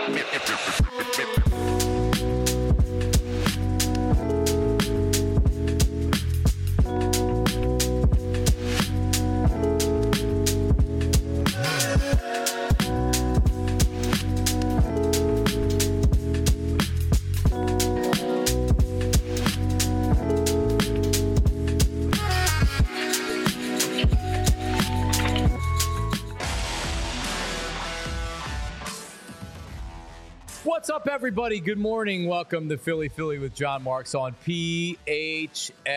What's up, everybody? Good morning. Welcome to Philly with John Marks on PHLY.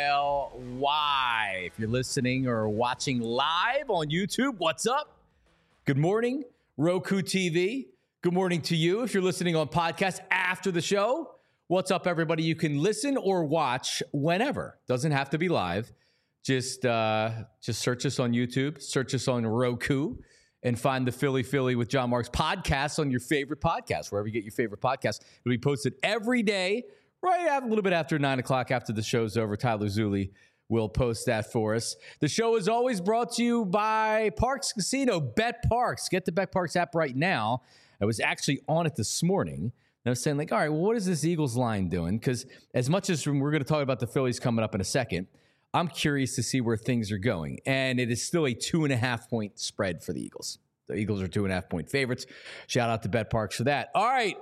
If you're listening or watching live on YouTube, what's up? Good morning, Roku TV. Good morning to you. If you're listening on podcast after the show, what's up, everybody? You can listen or watch whenever. Doesn't have to be live. Just search us on YouTube, search us on Roku, and find the Philly with John Marks podcast on your favorite podcast, wherever you get your favorite podcast. It'll be posted every day, right a little bit after 9 o'clock after the show's over. Tyler Zulli will post that for us. The show is always brought to you by Parx Casino, Bet Parx. Get the Bet Parx app right now. I was actually on it this morning, and I was saying, all right, well, what is this Eagles line doing? Because as much as we're going to talk about the Phillies coming up in a second, I'm curious to see where things are going. And it is still a 2.5-point spread for the Eagles. The Eagles are 2.5-point favorites. Shout out to Bet Parx for that. All right.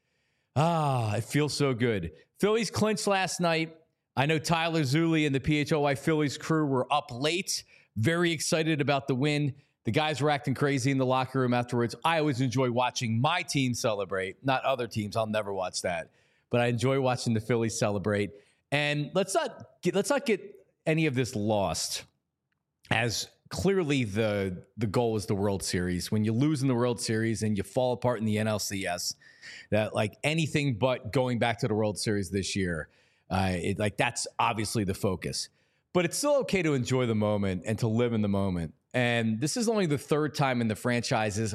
It feels so good. Phillies clinched last night. I know Tyler Zulli and the PHLY Phillies crew were up late, very excited about the win. The guys were acting crazy in the locker room afterwards. I always enjoy watching my team celebrate, not other teams. I'll never watch that. But I enjoy watching the Phillies celebrate. And let's not get any of this lost, as clearly the goal is the World Series. When you lose in the World Series and you fall apart in the NLCS, that like anything but going back to the World Series this year, that's obviously the focus. But it's still okay to enjoy the moment and to live in the moment. And this is only the third time in the franchise's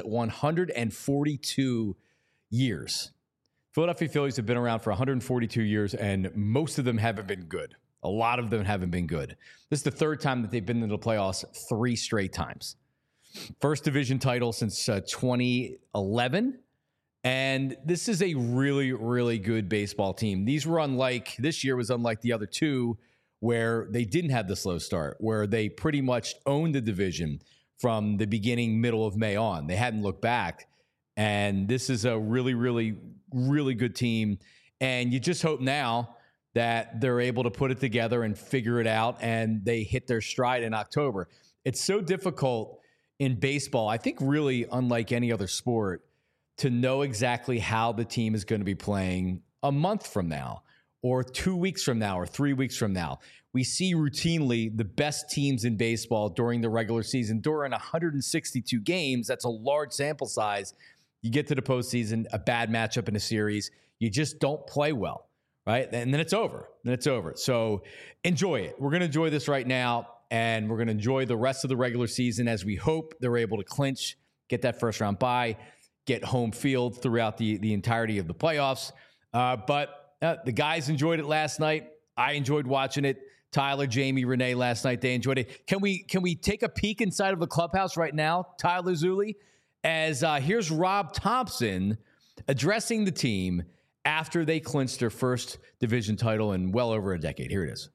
142 years. Philadelphia Phillies have been around for 142 years, and most of them haven't been good. A lot of them haven't been good. This is the third time that they've been in the playoffs 3 straight times. First division title since 2011. And this is a really, really good baseball team. This year was unlike the other two where they didn't have the slow start, where they pretty much owned the division from the beginning, middle of May on. They hadn't looked back. And this is a really, really, really good team. And you just hope now that they're able to put it together and figure it out, and they hit their stride in October. It's so difficult in baseball, I think really unlike any other sport, to know exactly how the team is going to be playing a month from now or 2 weeks from now or 3 weeks from now. We see routinely the best teams in baseball during the regular season. During 162 games, that's a large sample size. You get to the postseason, a bad matchup in a series, you just don't play well. Right? And then it's over. So enjoy it. We're going to enjoy this right now, and we're going to enjoy the rest of the regular season as we hope they're able to clinch, get that first round bye, get home field throughout the entirety of the playoffs. But the guys enjoyed it last night. I enjoyed watching it. Tyler, Jamie, Renee last night, they enjoyed it. Can we take a peek inside of the clubhouse right now, Tyler Zulli? As here's Rob Thompson addressing the team after they clinched their first division title in well over a decade. Here it is.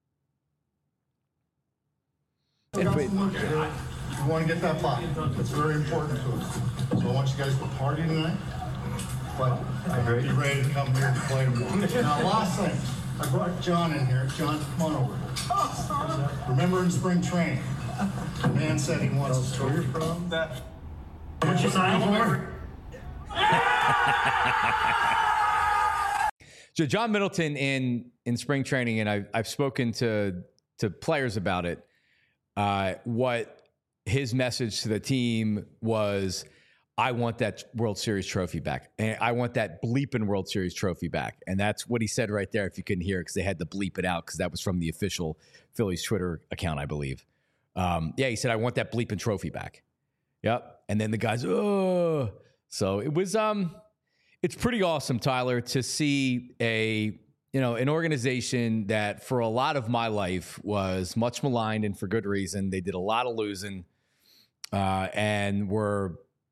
You want to get that ball. It's very important to us. So I want you guys to party tonight. But be ready to come here and play. Now, last thing. I brought John in here. John, come on over here. Remember in spring training, the man said he wants to. Where you're from? What you sign for? So John Middleton in spring training, and I've spoken to players about it. What his message to the team was, I want that World Series trophy back. And I want that bleeping World Series trophy back. And that's what he said right there, if you couldn't hear it, because they had to bleep it out, because that was from the official Phillies Twitter account, I believe. He said, I want that bleeping trophy back. Yep. And then the guys, oh. So it was it's pretty awesome, Tyler, to see an organization that for a lot of my life was much maligned, and for good reason. They did a lot of losing and were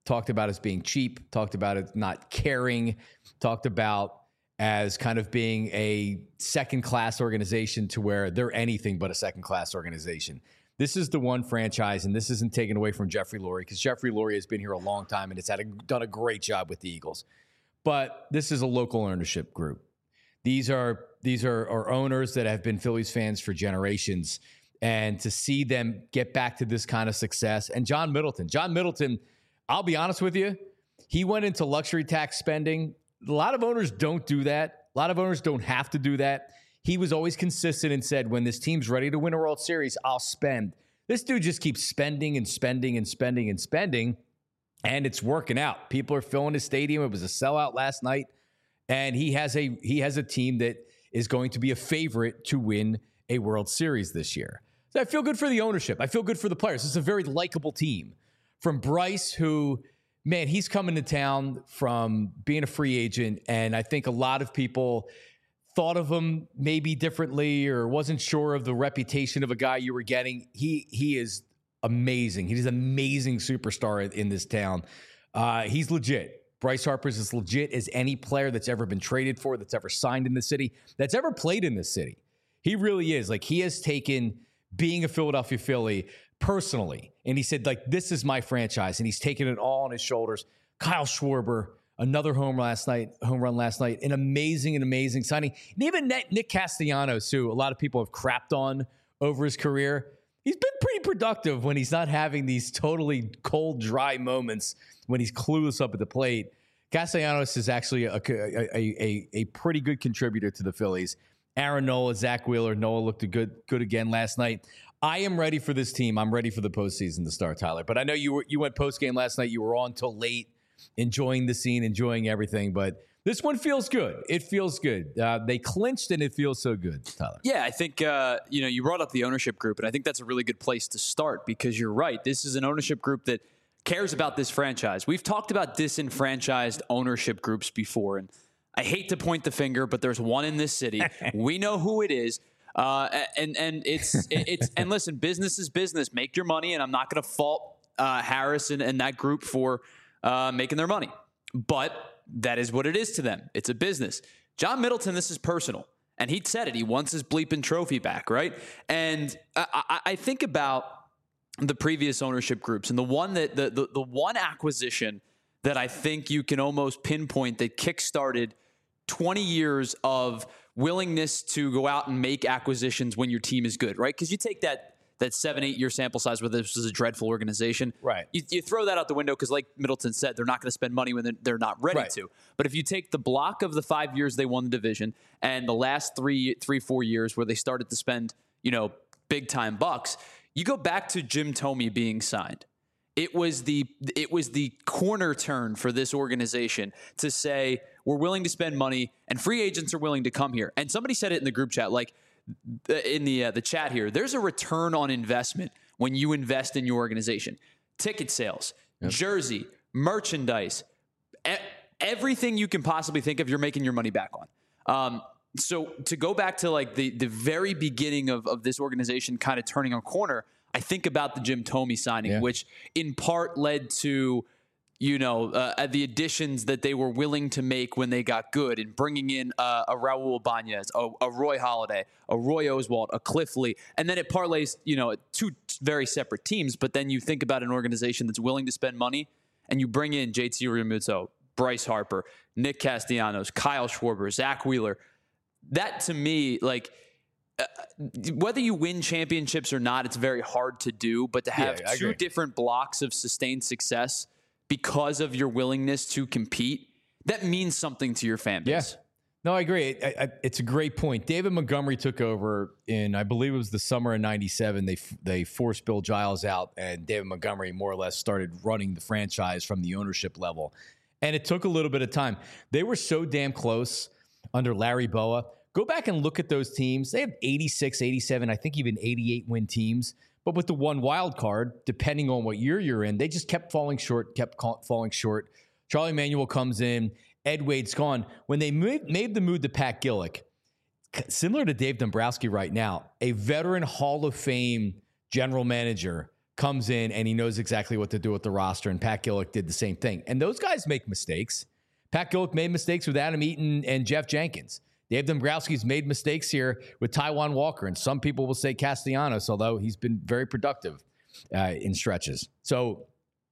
talked about as being cheap, talked about it not caring, talked about as kind of being a second-class organization to where they're anything but a second-class organization. This is the one franchise, and this isn't taken away from Jeffrey Lurie, because Jeffrey Lurie has been here a long time and has done a great job with the Eagles. But this is a local ownership group. These are owners that have been Phillies fans for generations, and to see them get back to this kind of success. And John Middleton, I'll be honest with you, he went into luxury tax spending. A lot of owners don't do that. A lot of owners don't have to do that. He was always consistent and said, when this team's ready to win a World Series, I'll spend. This dude just keeps spending and spending and spending and spending, and it's working out. People are filling his stadium. It was a sellout last night, and he has a team that is going to be a favorite to win a World Series this year. So I feel good for the ownership. I feel good for the players. It's a very likable team. From Bryce, who, man, he's coming to town from being a free agent, and I think a lot of people thought of him maybe differently or wasn't sure of the reputation of a guy you were getting. He is amazing. He's an amazing superstar in this town. He's legit. Bryce Harper's as legit as any player that's ever been traded for, that's ever signed in the city, that's ever played in this city. He really is. Like, he has taken being a Philadelphia Philly personally, and he said, like, this is my franchise, and he's taken it all on his shoulders. Kyle Schwarber, another home run last night, an amazing signing. And even Nick Castellanos, who a lot of people have crapped on over his career, he's been pretty productive when he's not having these totally cold, dry moments when he's clueless up at the plate. Castellanos is actually a pretty good contributor to the Phillies. Aaron Nola, Zach Wheeler. Nola looked good again last night. I am ready for this team. I'm ready for the postseason to start, Tyler. But I know you went postgame last night. You were on till late, enjoying the scene, enjoying everything. But this one feels good. It feels good. They clinched, and it feels so good, Tyler. Yeah, I think you brought up the ownership group, and I think that's a really good place to start, because you're right. This is an ownership group that cares about this franchise. We've talked about disenfranchised ownership groups before, and I hate to point the finger, but there's one in this city. We know who it is. And listen, business is business. Make your money, and I'm not going to fault Harris and that group for making their money. But that is what it is to them. It's a business. John Middleton, this is personal. And he said it. He wants his bleeping trophy back, right? And I think about the previous ownership groups, and the one that the one acquisition that I think you can almost pinpoint that kickstarted 20 years of willingness to go out and make acquisitions when your team is good, right? Because you take that 7-8 year sample size where this was a dreadful organization. Right. You throw that out the window because, like Middleton said, they're not going to spend money when they're not ready to. But if you take the block of the 5 years they won the division and the last 4 years where they started to spend, big time bucks, you go back to Jim Thome being signed. It was the corner turn for this organization to say, we're willing to spend money and free agents are willing to come here. And somebody said it in the group chat, like in the chat here, there's a return on investment when you invest in your organization. Ticket sales, jersey, merchandise, everything you can possibly think of, you're making your money back on. So to go back to like the very beginning of this organization kind of turning a corner, I think about the Jim Thome signing, which in part led to, the additions that they were willing to make when they got good, and bringing in a Raul Ibanez, a Roy Halladay, a Roy Oswalt, a Cliff Lee. And then it parlays, two very separate teams. But then you think about an organization that's willing to spend money, and you bring in JT Realmuto, Bryce Harper, Nick Castellanos, Kyle Schwarber, Zach Wheeler. That to me, like, whether you win championships or not, it's very hard to do. But to have two different blocks of sustained success because of your willingness to compete, that means something to your fan base. Yeah. No, I agree. It's a great point. David Montgomery took over in, I believe it was the summer of '97. They forced Bill Giles out, and David Montgomery more or less started running the franchise from the ownership level. And it took a little bit of time. They were so damn close under Larry Bowa. Go back and look at those teams. They have 86, 87, I think even 88 win teams. But with the one wild card, depending on what year you're in, they just kept falling short. Charlie Manuel comes in. Ed Wade's gone. When they made the move to Pat Gillick, similar to Dave Dombrowski right now, a veteran Hall of Fame general manager comes in and he knows exactly what to do with the roster, and Pat Gillick did the same thing. And those guys make mistakes. Pat Gillick made mistakes with Adam Eaton and Jeff Jenkins. Dave Dombrowski's made mistakes here with Taijuan Walker, and some people will say Castellanos, although he's been very productive in stretches. So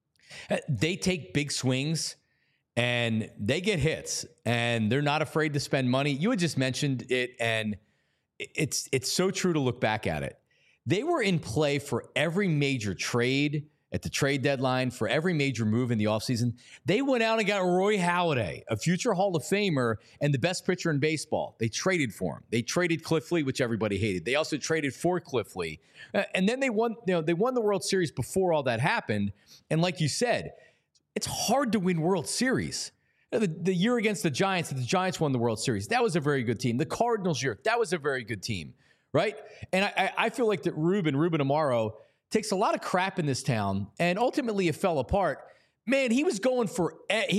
they take big swings, and they get hits, and they're not afraid to spend money. You had just mentioned it, and it's so true to look back at it. They were in play for every major trade at the trade deadline, for every major move in the offseason. They went out and got Roy Halladay, a future Hall of Famer and the best pitcher in baseball. They traded for him. They traded Cliff Lee, which everybody hated. They also traded for Cliff Lee. And then they won the World Series before all that happened. And like you said, it's hard to win World Series. The year against the Giants won the World Series. That was a very good team. The Cardinals year, that was a very good team. Right? And I feel like that Ruben Amaro takes a lot of crap in this town, and ultimately it fell apart. Man, he was going for it.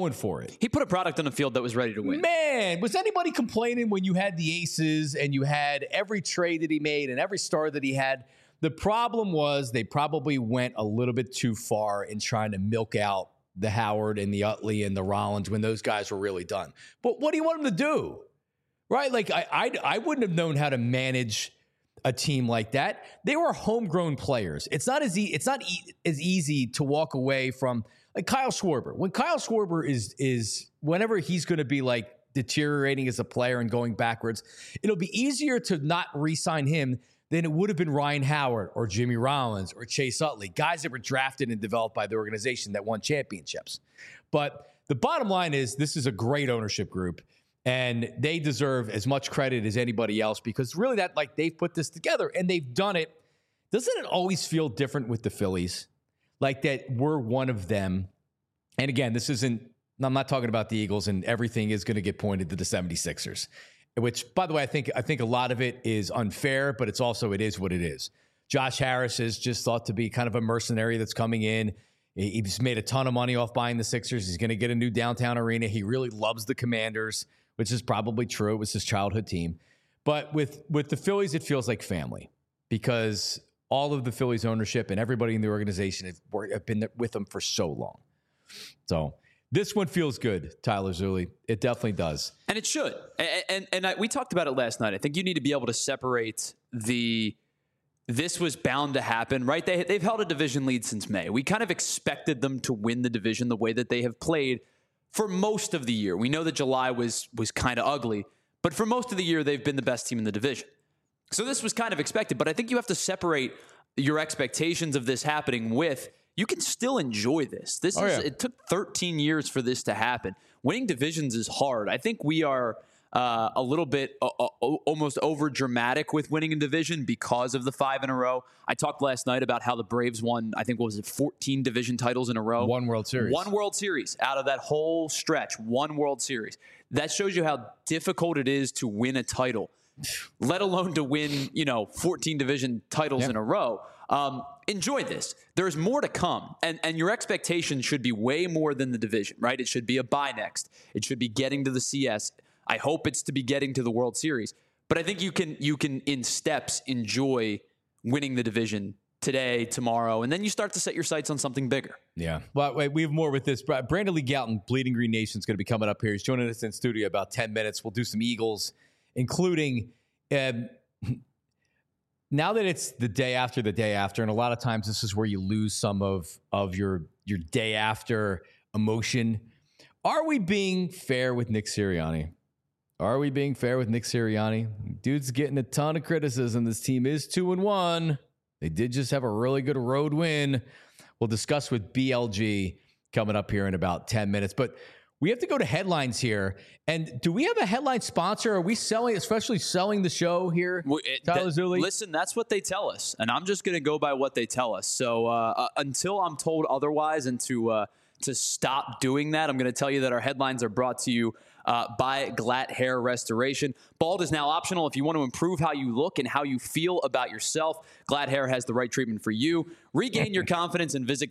He put a product on the field that was ready to win. Man, was anybody complaining when you had the aces and you had every trade that he made and every star that he had? The problem was they probably went a little bit too far in trying to milk out the Howard and the Utley and the Rollins when those guys were really done. But what do you want them to do? Right? Like, I wouldn't have known how to manage a team like that. They were homegrown players. It's not as easy to walk away from, like, Kyle Schwarber. When Kyle Schwarber is whenever he's going to be like deteriorating as a player and going backwards, it'll be easier to not re-sign him than it would have been Ryan Howard or Jimmy Rollins or Chase Utley, guys that were drafted and developed by the organization that won championships. But the bottom line is this is a great ownership group. And they deserve as much credit as anybody else because really they've put this together and they've done it. Doesn't it always feel different with the Phillies? Like that we're one of them. And again, I'm not talking about the Eagles, and everything is going to get pointed to the 76ers, which, by the way, I think a lot of it is unfair, but it is what it is. Josh Harris is just thought to be kind of a mercenary that's coming in. He's made a ton of money off buying the Sixers. He's going to get a new downtown arena. He really loves the Commanders, which is probably true. It was his childhood team. But with the Phillies, it feels like family because all of the Phillies ownership and everybody in the organization have been with them for so long. So this one feels good, Tyler Zulli. It definitely does. And it should. And we talked about it last night. I think you need to be able to separate this was bound to happen, right? They've held a division lead since May. We kind of expected them to win the division the way that they have played for most of the year. We know that July was kind of ugly, but for most of the year, they've been the best team in the division. So this was kind of expected, but I think you have to separate your expectations of this happening with, you can still enjoy this. It took 13 years for this to happen. Winning divisions is hard. I think we are a little bit almost over dramatic with winning a division because of the 5 in a row. I talked last night about how the Braves won, I think, 14 division titles in a row. One World Series out of that whole stretch. One World Series. That shows you how difficult it is to win a title, let alone to win, 14 division titles in a row. Enjoy this. There's more to come. And your expectations should be way more than the division, right? It should be a bye next. It should be getting to the CS. I hope it's to be getting to the World Series. But I think you can in steps enjoy winning the division today, tomorrow, and then you start to set your sights on something bigger. Yeah. Well, wait, we have more with this. Brandon Lee Gowton, Bleeding Green Nation, is going to be coming up here. He's joining us in studio about 10 minutes. We'll do some Eagles, including now that it's the day after, and a lot of times this is where you lose some of your day after emotion. Are we being fair with Nick Sirianni? Dude's getting a ton of criticism. This team is 2-1. They did just have a really good road win. We'll discuss with BLG coming up here in about 10 minutes. But we have to go to headlines here. And do we have a headline sponsor? Are we selling the show here, Tyler Zulli? Listen, that's what they tell us. And I'm just going to go by what they tell us. So until I'm told otherwise and to stop doing that, I'm going to tell you that our headlines are brought to you by Glatt Hair Restoration. Bald is now optional if you want to improve how you look and how you feel about yourself. Glatt Hair has the right treatment for you. Regain your confidence and visit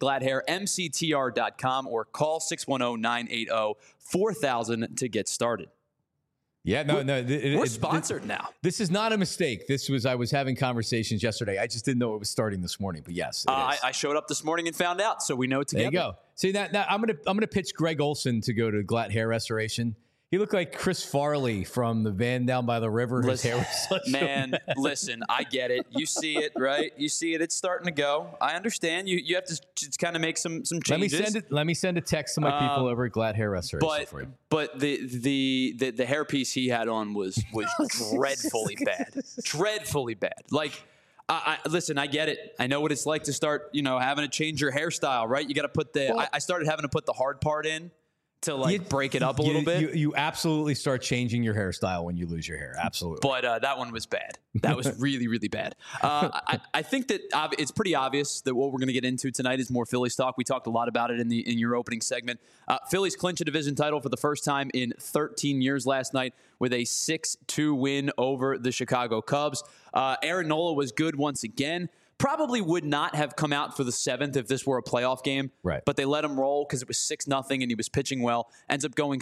GlattHairMCTR.com or call 610-980-4000 to get started. Yeah, no. We're sponsored now. This is not a mistake. I was having conversations yesterday. I just didn't know it was starting this morning. But yes, it is. I showed up this morning and found out, so we know it together. There you go. See that? Now I'm gonna pitch Greg Olson to go to Glatt Hair Restoration. He looked like Chris Farley from the van down by the river. His hair was such listen, I get it. You see it, right? You see it. It's starting to go. I understand. You have to just kind of make some changes. Let me send a text to my people over at Glatt Hair Restoration for you. But the hairpiece he had on was dreadfully bad. Dreadfully bad. Like, listen, I get it. I know what it's like to start, having to change your hairstyle, right? You got to put I started having to put the hard part in to break it up a little bit. You absolutely start changing your hairstyle when you lose your hair. Absolutely. But that one was bad. That was really, really bad. I think that it's pretty obvious that what we're going to get into tonight is more Phillies talk. We talked a lot about it in your opening segment. Phillies clinch a division title for the first time in 13 years last night with a 6-2 win over the Chicago Cubs. Aaron Nola was good once again. Probably would not have come out for the 7th if this were a playoff game. Right. But they let him roll because it was 6-0 and he was pitching well. Ends up going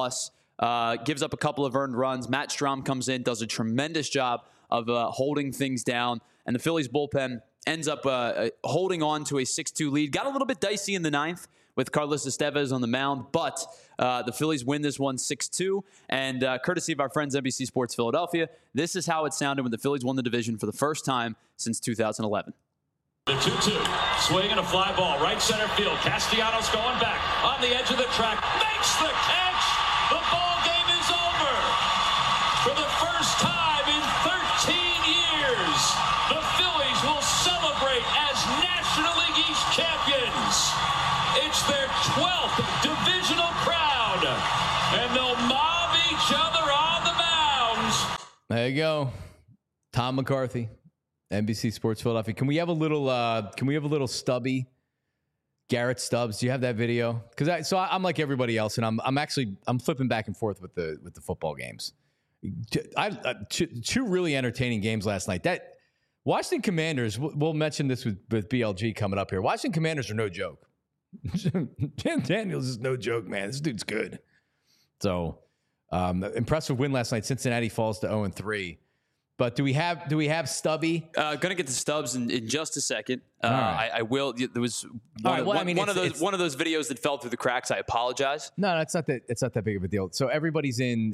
6+. Gives up a couple of earned runs. Matt Strahm comes in, does a tremendous job of holding things down. And the Phillies bullpen ends up holding on to a 6-2 lead. Got a little bit dicey in the 9th with Carlos Estevez on the mound. But the Phillies win this one 6-2. And courtesy of our friends NBC Sports Philadelphia, this is how it sounded when the Phillies won the division for the first time since 2011. The 2-2, swinging a fly ball, right center field. Castellanos going back on the edge of the track, makes the catch. The ball game is over. For the first time in 13 years, the Phillies will celebrate as National League East champions. It's their 12th divisional crown, and they'll mob each other on the mounds. There you go, Tom McCarthy, NBC Sports Philadelphia. Can we have a little Stubby, Garrett Stubbs? Do you have that video? Because I'm like everybody else, and I'm flipping back and forth with the football games. Two really entertaining games last night. That Washington Commanders. We'll mention this with BLG coming up here. Washington Commanders are no joke. Jim Daniels is no joke, man. This dude's good. So impressive win last night. Cincinnati falls to 0-3. But do we have Stubby? Gonna get to Stubbs in just a second. Right. I will. There was one of those videos that fell through the cracks. I apologize. No, it's not that big of a deal. So everybody's in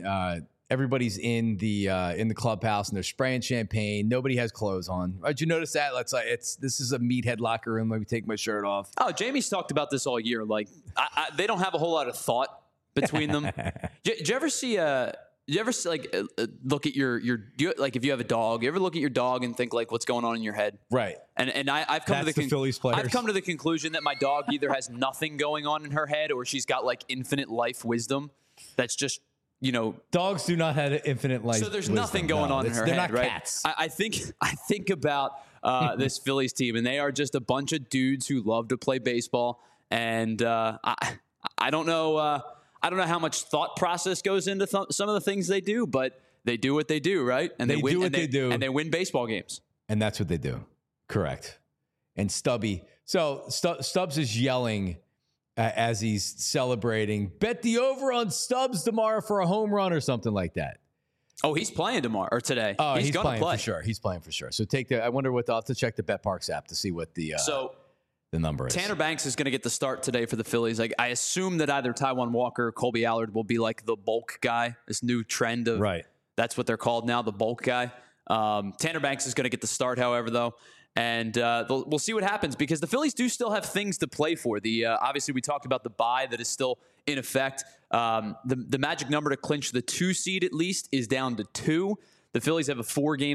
the clubhouse and they're spraying champagne. Nobody has clothes on. Did you notice that? This is a meathead locker room. Let me take my shirt off. Oh, Jamie's talked about this all year. Like they don't have a whole lot of thought between them. Did you ever see look at if you have a dog, you ever look at your dog and think like what's going on in your head? Right. And I've come to the Phillies players. I've come to the conclusion that my dog either has nothing going on in her head or she's got like infinite life wisdom. That's just, dogs do not have infinite life. So there's nothing going on in her head, they're not right? Cats. I think about this Phillies team, and they are just a bunch of dudes who love to play baseball. And I don't know. I don't know how much thought process goes into some of the things they do, but they do what they do, right? And they win, do what they do, and they win baseball games. And that's what they do, correct? And Stubby, so Stubbs is yelling as he's celebrating. Bet the over on Stubbs tomorrow for a home run or something like that. Oh, he's playing tomorrow or today. Oh, he's going to play for sure. He's playing for sure. So I wonder I'll have to check the BetParks app to see what the number is. Tanner Banks is going to get the start today for the Phillies. I assume that either Taijuan Walker or Colby Allard will be like the bulk guy. This new trend of That's what they're called now, the bulk guy. Tanner Banks is going to get the start, however, though. And we'll see what happens because the Phillies do still have things to play for. Obviously, we talked about the bye that is still in effect. The magic number to clinch the 2 seed at least is down to 2. The Phillies have a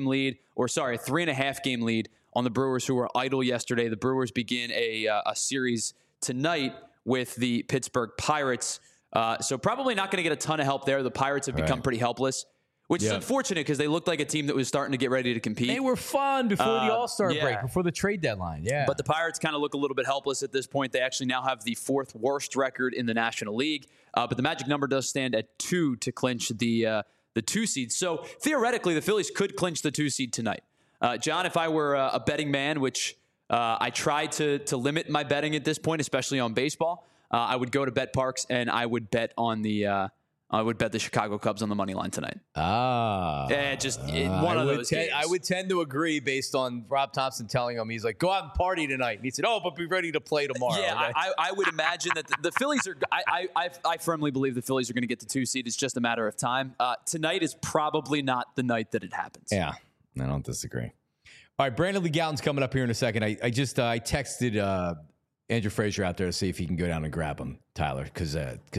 3.5 game lead on the Brewers, who were idle yesterday. The Brewers begin a series tonight with the Pittsburgh Pirates. So probably not going to get a ton of help there. The Pirates have become pretty helpless, which is unfortunate because they looked like a team that was starting to get ready to compete. They were fun before the All-Star break, before the trade deadline. Yeah. But the Pirates kind of look a little bit helpless at this point. They actually now have the 4th worst record in the National League. But the magic number does stand at 2 to clinch the 2 seed. So theoretically, the Phillies could clinch the 2 seed tonight. John, if I were a betting man, which I try to limit my betting at this point, especially on baseball, I would go to BetParks and I would bet on the I would bet the Chicago Cubs on the money line tonight. One of those games. I would tend to agree based on Rob Thompson telling him, he's like, go out and party tonight. And he said, but be ready to play tomorrow. Yeah, okay? I would imagine that the Phillies are – I firmly believe the Phillies are going to get the 2 seed. It's just a matter of time. Tonight is probably not the night that it happens. Yeah, I don't disagree. All right, Brandon Lee Gowton's coming up here in a second. I texted Andrew Frazier out there to see if he can go down and grab him, Tyler, because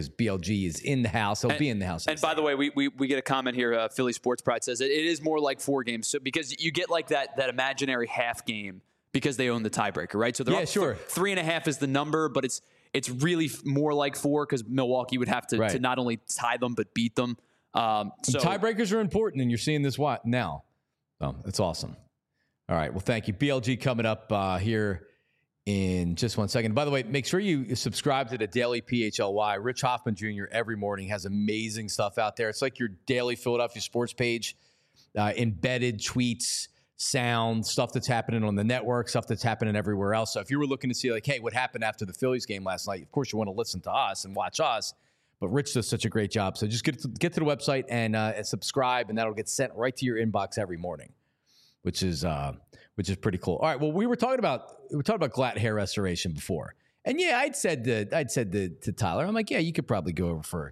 BLG is in the house. He'll be in the house. And by the way, we get a comment here. Philly Sports Pride says it is more like 4 games, so because you get like that imaginary half game because they own the tiebreaker, right? So they're up 3.5 is the number, but it's really more like 4 because Milwaukee would have to not only tie them but beat them. So tiebreakers are important, and you're seeing this now. So it's awesome. All right, well, thank you. BLG coming up here in just 1 second. By the way, make sure you subscribe to the Daily PHLY. Rich Hoffman Jr. every morning has amazing stuff out there. It's like your daily Philadelphia sports page, embedded tweets, sound, stuff that's happening on the network, stuff that's happening everywhere else. So if you were looking to see like, hey, what happened after the Phillies game last night, of course you want to listen to us and watch us. But Rich does such a great job. So just get to the website and subscribe, and that'll get sent right to your inbox every morning, which is pretty cool. All right. Well, we were talking about Glatt hair restoration before, and yeah, I'd said to Tyler, I'm like, yeah, you could probably go over for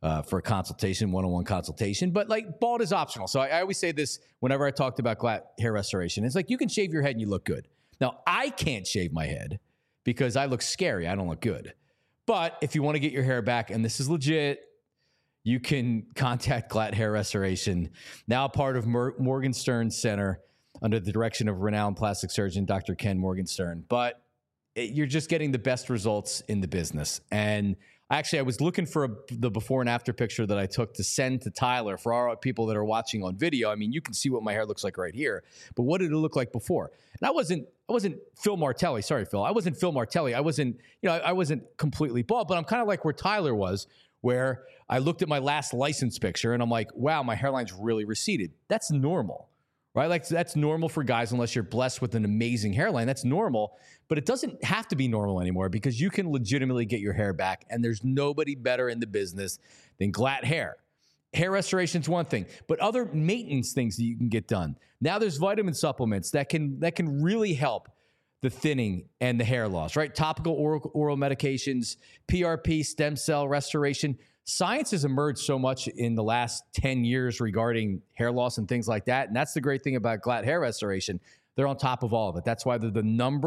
a consultation, one-on-one consultation, but like bald is optional. So I always say this whenever I talked about Glatt hair restoration. It's like you can shave your head and you look good. Now I can't shave my head because I look scary. I don't look good. But if you want to get your hair back, and this is legit, you can contact Glatt Hair Restoration, now part of Morgenstern Center under the direction of renowned plastic surgeon Dr. Ken Morgenstern. But you're just getting the best results in the business. And I was looking for the before and after picture that I took to send to Tyler for our people that are watching on video. I mean, you can see what my hair looks like right here, but what did it look like before? And I wasn't Phil Martelli. Sorry, Phil. I wasn't Phil Martelli. I wasn't completely bald, but I'm kind of like where Tyler was, where I looked at my last license picture and I'm like, wow, my hairline's really receded. That's normal, right? Like that's normal for guys unless you're blessed with an amazing hairline. That's normal, but it doesn't have to be normal anymore because you can legitimately get your hair back, and there's nobody better in the business than Glatt Hair. Hair restoration is one thing, but other maintenance things that you can get done. Now there's vitamin supplements that can really help the thinning and the hair loss, right? Topical oral medications, PRP, stem cell restoration. Science has emerged so much in the last 10 years regarding hair loss and things like that. And that's the great thing about Glatt Hair Restoration. They're on top of all of it. That's why they're the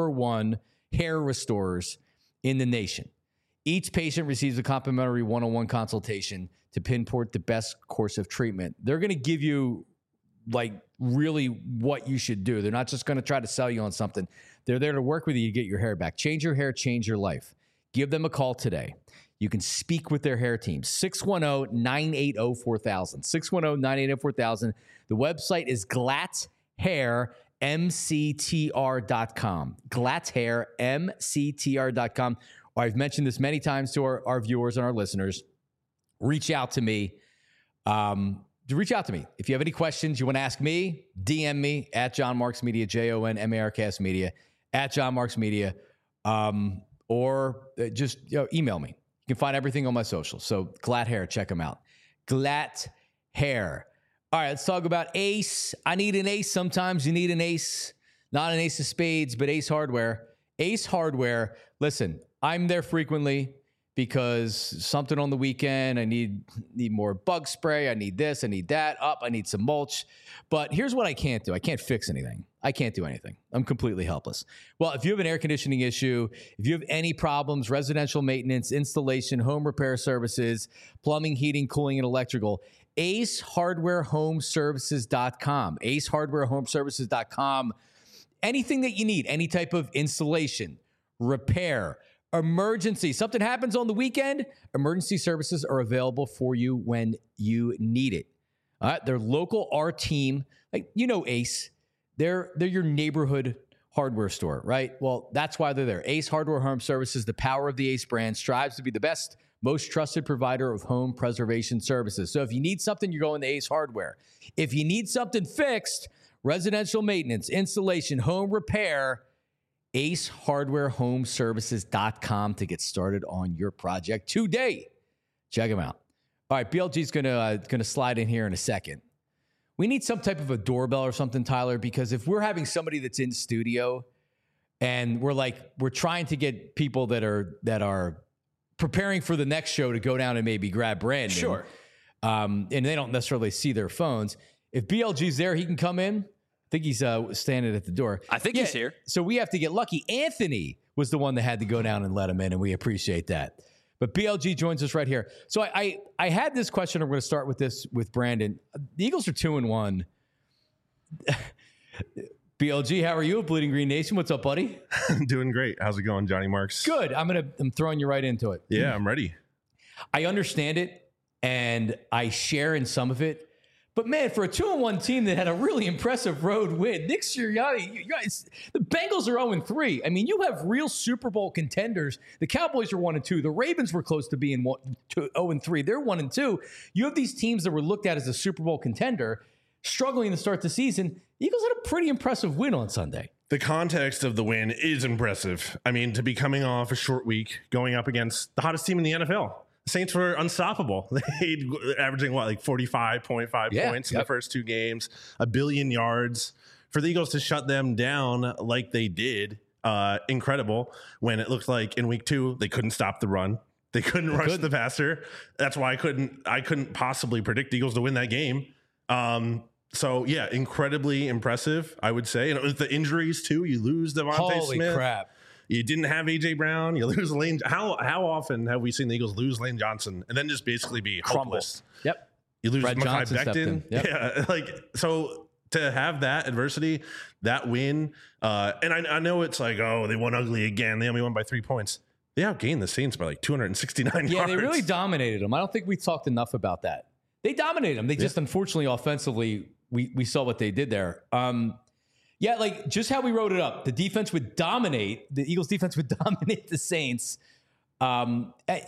#1 hair restorers in the nation. Each patient receives a complimentary one-on-one consultation to pinpoint the best course of treatment. They're going to give you like really what you should do. They're not just going to try to sell you on something. They're there to work with you to get your hair back. Change your hair, change your life. Give them a call today. You can speak with their hair team. 610-980-4000. 610-980-4000. The website is glatthairmctr.com. glatthairmctr.com. I've mentioned this many times to our viewers and our listeners. Reach out to me. Reach out to me. If you have any questions you want to ask me, DM me at John Marks Media, JONMARKS Media, at John Marks Media, or just email me. You can find everything on my socials. So Glatt Hair, check them out. Glatt Hair. All right, let's talk about Ace. I need an Ace. Sometimes you need an Ace. Not an Ace of Spades, but Ace Hardware. Ace Hardware. Listen, I'm there frequently because something on the weekend, I need more bug spray. I need this. I need that. I need some mulch. But here's what I can't do. I can't fix anything. I can't do anything. I'm completely helpless. Well, if you have an air conditioning issue, if you have any problems, residential maintenance, installation, home repair services, plumbing, heating, cooling, and electrical, AceHardwareHomeservices.com. AceHardwareHomeservices.com. Anything that you need, any type of installation, repair, emergency, something happens on the weekend, emergency services are available for you when you need it. All right, they're local, our team, like Ace. They're your neighborhood hardware store, right? Well, that's why they're there. Ace Hardware Home Services, the power of the Ace brand, strives to be the best, most trusted provider of home preservation services. So if you need something, you're going to Ace Hardware. If you need something fixed, residential maintenance, installation, home repair, AceHardwareHomeservices.com to get started on your project today. Check them out. All right, BLG's gonna slide in here in a second. We need some type of a doorbell or something, Tyler, because if we're having somebody that's in studio and we're trying to get people that are preparing for the next show to go down and maybe grab Brandon. Sure. And they don't necessarily see their phones. If BLG's there, he can come in. I think he's standing at the door. I think he's here. So we have to get lucky. Anthony was the one that had to go down and let him in, and we appreciate that. But BLG joins us right here. So I had this question. I'm going to start with this with Brandon. The Eagles are 2-1. BLG, how are you? Bleeding Green Nation, what's up, buddy? Doing great. How's it going, Johnny Marks? Good. I'm throwing you right into it. Yeah, I'm ready. I understand it, and I share in some of it. But, man, for a 2-1 team that had a really impressive road win, Nick Sirianni, you guys, the Bengals are 0-3. I mean, you have real Super Bowl contenders. The Cowboys are 1-2. The Ravens were close to being 0-3. They're 1-2. You have these teams that were looked at as a Super Bowl contender struggling to start the season. The Eagles had a pretty impressive win on Sunday. The context of the win is impressive. I mean, to be coming off a short week, going up against the hottest team in the NFL. The Saints were unstoppable. They averaging like 45.5 points in the first two games, 1 billion yards. For the Eagles to shut them down like they did, incredible. When it looked like in week 2 they couldn't stop the run, they couldn't rush the passer. That's why I couldn't possibly predict the Eagles to win that game. So yeah, incredibly impressive, I would say. And with the injuries too, you lose Devontae Smith. Holy crap. You didn't have A.J. Brown. You lose Lane. How often have we seen the Eagles lose Lane Johnson and then just basically be hopeless? Yep. You lose Fred Mekhi Johnson Becton. Yep. Yeah, so to have that adversity, that win, and I know it's like, oh, they won ugly again. They only won by 3 points. They outgained the Saints by like 269 yards. Yeah, they really dominated them. I don't think we talked enough about that. They dominated them. They just, unfortunately, offensively, we saw what they did there. Yeah, like just how we wrote it up. The defense would dominate. The Eagles defense would dominate the Saints. I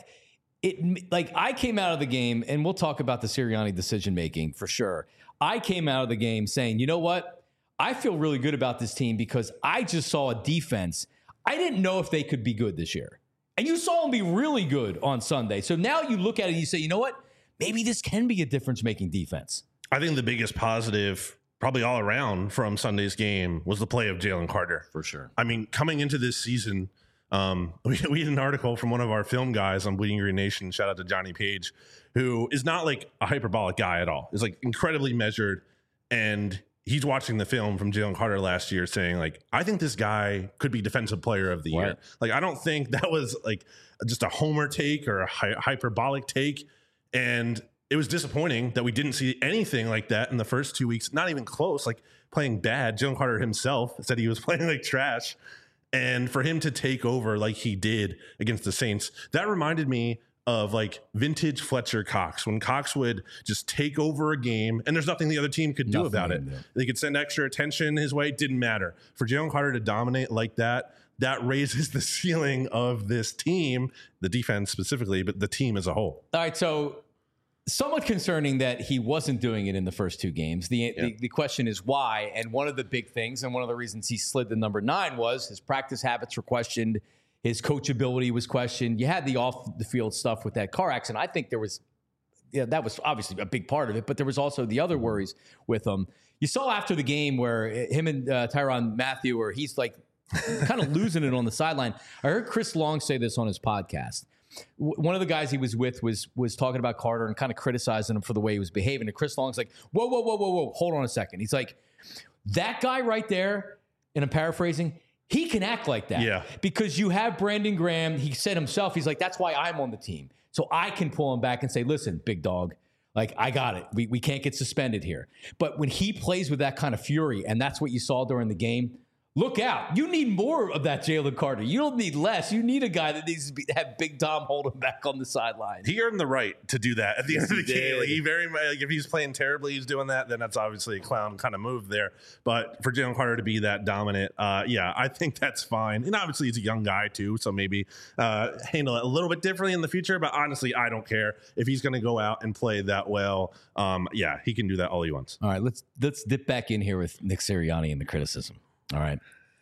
came out of the game, and we'll talk about the Sirianni decision-making for sure. I came out of the game saying, you know what? I feel really good about this team because I just saw a defense. I didn't know if they could be good this year. And you saw them be really good on Sunday. So now you look at it and you say, you know what? Maybe this can be a difference-making defense. I think the biggest positive probably all around from Sunday's game was the play of Jalen Carter. For sure. I mean, coming into this season, we had an article from one of our film guys on Bleeding Green Nation, shout out to Johnny Page, who is not like a hyperbolic guy at all. He's like incredibly measured, and he's watching the film from Jalen Carter last year saying like, I think this guy could be defensive player of the year. Like, I don't think that was like just a homer take or a hyperbolic take. And it was disappointing that we didn't see anything like that in the first 2 weeks. Not even close, like playing bad. Jalen Carter himself said he was playing like trash. And for him to take over like he did against the Saints, that reminded me of like vintage Fletcher Cox, when Cox would just take over a game and there's nothing the other team could do about it. They could send extra attention his way. It didn't matter. For Jalen Carter to dominate like that, that raises the ceiling of this team, the defense specifically, but the team as a whole. All right, so somewhat concerning that he wasn't doing it in the first 2 games. The question is why, and one of the big things and one of the reasons he slid to number 9 was his practice habits were questioned, his coachability was questioned. You had the off-the-field stuff with that car accident. I think there was, that was obviously a big part of it, but there was also the other worries with him. You saw after the game where him and Tyrann Mathieu, where he's like kind of losing it on the sideline. I heard Chris Long say this on his podcast. One of the guys he was with was talking about Carter and kind of criticizing him for the way he was behaving. And Chris Long's like, whoa, hold on a second. He's like, that guy right there, and I'm paraphrasing, he can act like that. Yeah. Because you have Brandon Graham. He said himself, he's like, that's why I'm on the team. So I can pull him back and say, listen, big dog, like, I got it. We can't get suspended here. But when he plays with that kind of fury, and that's what you saw during the game, look out. You need more of that Jalen Carter. You don't need less. You need a guy that needs to have Big Dom hold him back on the sideline. He earned the right to do that at the end of the game. Like, he very much, like, if he's playing terribly, he's doing that, then that's obviously a clown kind of move there. But for Jalen Carter to be that dominant, I think that's fine. And obviously he's a young guy too, so maybe handle it a little bit differently in the future. But honestly, I don't care if he's going to go out and play that well. He can do that all he wants. All right, let's dip back in here with Nick Sirianni and the criticism. All right.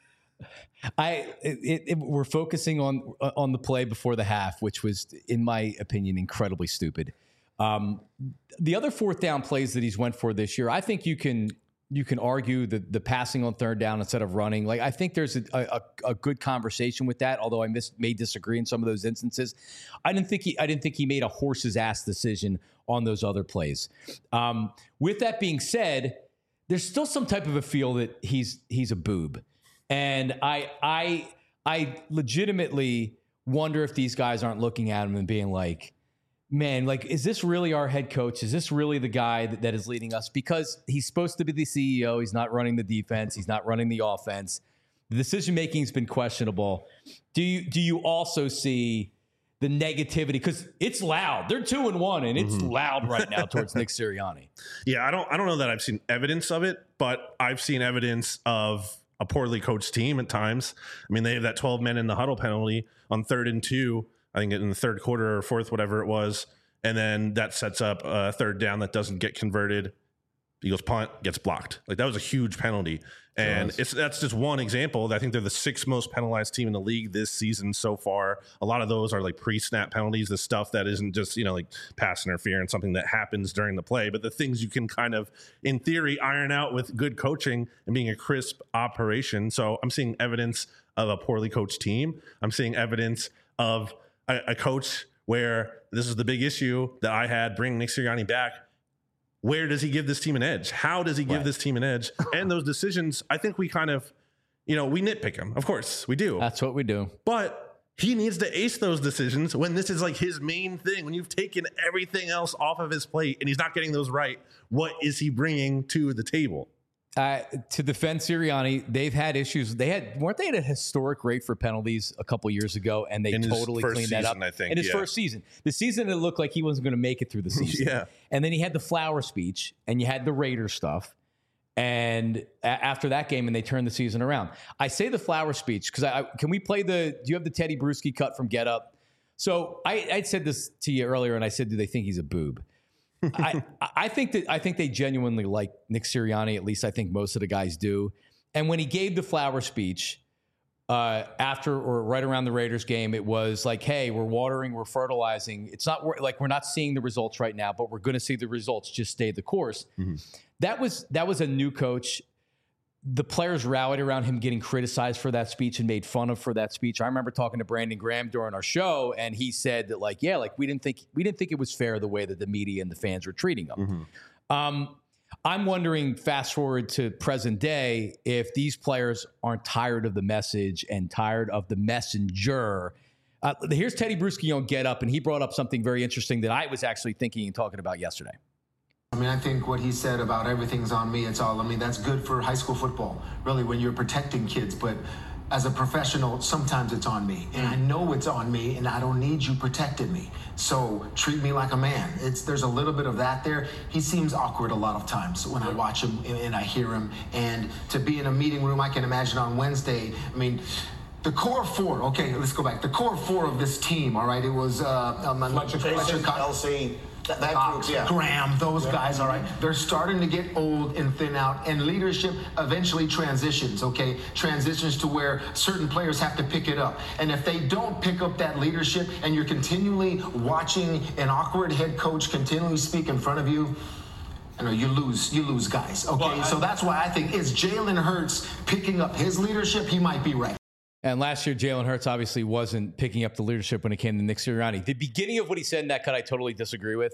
We're focusing on the play before the half, which was, in my opinion, incredibly stupid. The other fourth down plays that he's went for this year, I think you can argue the passing on third down instead of running. Like, I think there's a good conversation with that, although I may disagree in some of those instances. I didn't think he made a horse's ass decision on those other plays. With that being said, there's still some type of a feel that he's a boob. And I legitimately wonder if these guys aren't looking at him and being like, man, like, is this really our head coach? Is this really the guy that is leading us? Because he's supposed to be the CEO. He's not running the defense. He's not running the offense. The decision-making has been questionable. Do you also see the negativity? Because it's loud. They're 2-1, and it's loud right now towards Nick Sirianni. Yeah, I don't know that I've seen evidence of it, but I've seen evidence of a poorly coached team at times. I mean, they have that 12 men in the huddle penalty on 3rd and 2. I think in the third quarter or fourth, whatever it was. And then that sets up a third down that doesn't get converted. Eagles punt, gets blocked. Like, that was a huge penalty. And that's just one example. I think they're the 6th most penalized team in the league this season so far. A lot of those are like pre-snap penalties, the stuff that isn't just, like pass interference, something that happens during the play, but the things you can kind of, in theory, iron out with good coaching and being a crisp operation. So I'm seeing evidence of a poorly coached team. I'm seeing evidence of a coach where this is the big issue that I had bringing Nick Sirianni back. Where does he give this team an edge? How does he give this team an edge? And those decisions, I think we kind of, we nitpick him. Of course, we do. That's what we do. But he needs to ace those decisions when this is like his main thing. When you've taken everything else off of his plate and he's not getting those right, what is he bringing to the table? To defend Sirianni, they've had issues. Weren't they at a historic rate for penalties a couple years ago, and they totally cleaned that up. I think, in his first season. The season it looked like he wasn't going to make it through the season. Yeah. And then he had the flower speech, and you had the Raiders stuff. And after that game, and they turned the season around. I say the flower speech because can we play do you have the Teddy Bruschi cut from Get Up? So I said this to you earlier, and I said, do they think he's a boob? I think they genuinely like Nick Sirianni. At least I think most of the guys do. And when he gave the flower speech after or right around the Raiders game, it was like, hey, we're watering, we're fertilizing. It's not like we're not seeing the results right now, but we're going to see the results. Just stay the course. Mm-hmm. That was a new coach. The players rallied around him getting criticized for that speech and made fun of for that speech. I remember talking to Brandon Graham during our show, and he said that, we didn't think it was fair the way that the media and the fans were treating him. Mm-hmm. I'm wondering, fast forward to present day, if these players aren't tired of the message and tired of the messenger. Here's Teddy Bruschi on Get Up, and he brought up something very interesting that I was actually thinking and talking about yesterday. I mean, I think what he said about everything's on me, that's good for high school football, really, when you're protecting kids. But as a professional, sometimes it's on me. And I know it's on me, and I don't need you protecting me. So treat me like a man. There's a little bit of that there. He seems awkward a lot of times when I watch him and I hear him. And to be in a meeting room, I can imagine on Wednesday, the core four, okay, let's go back. The core four of this team, all right, it was Fletcher, LC, that group, yeah. Graham, those guys, all right, they're starting to get old and thin out, and leadership eventually transitions, okay? Transitions to where certain players have to pick it up. And if they don't pick up that leadership and you're continually watching an awkward head coach continually speak in front of you, you lose guys, okay? Well, so that's why I think is Jalen Hurts picking up his leadership? He might be right. And last year, Jalen Hurts obviously wasn't picking up the leadership when it came to Nick Sirianni. The beginning of what he said in that cut, I totally disagree with.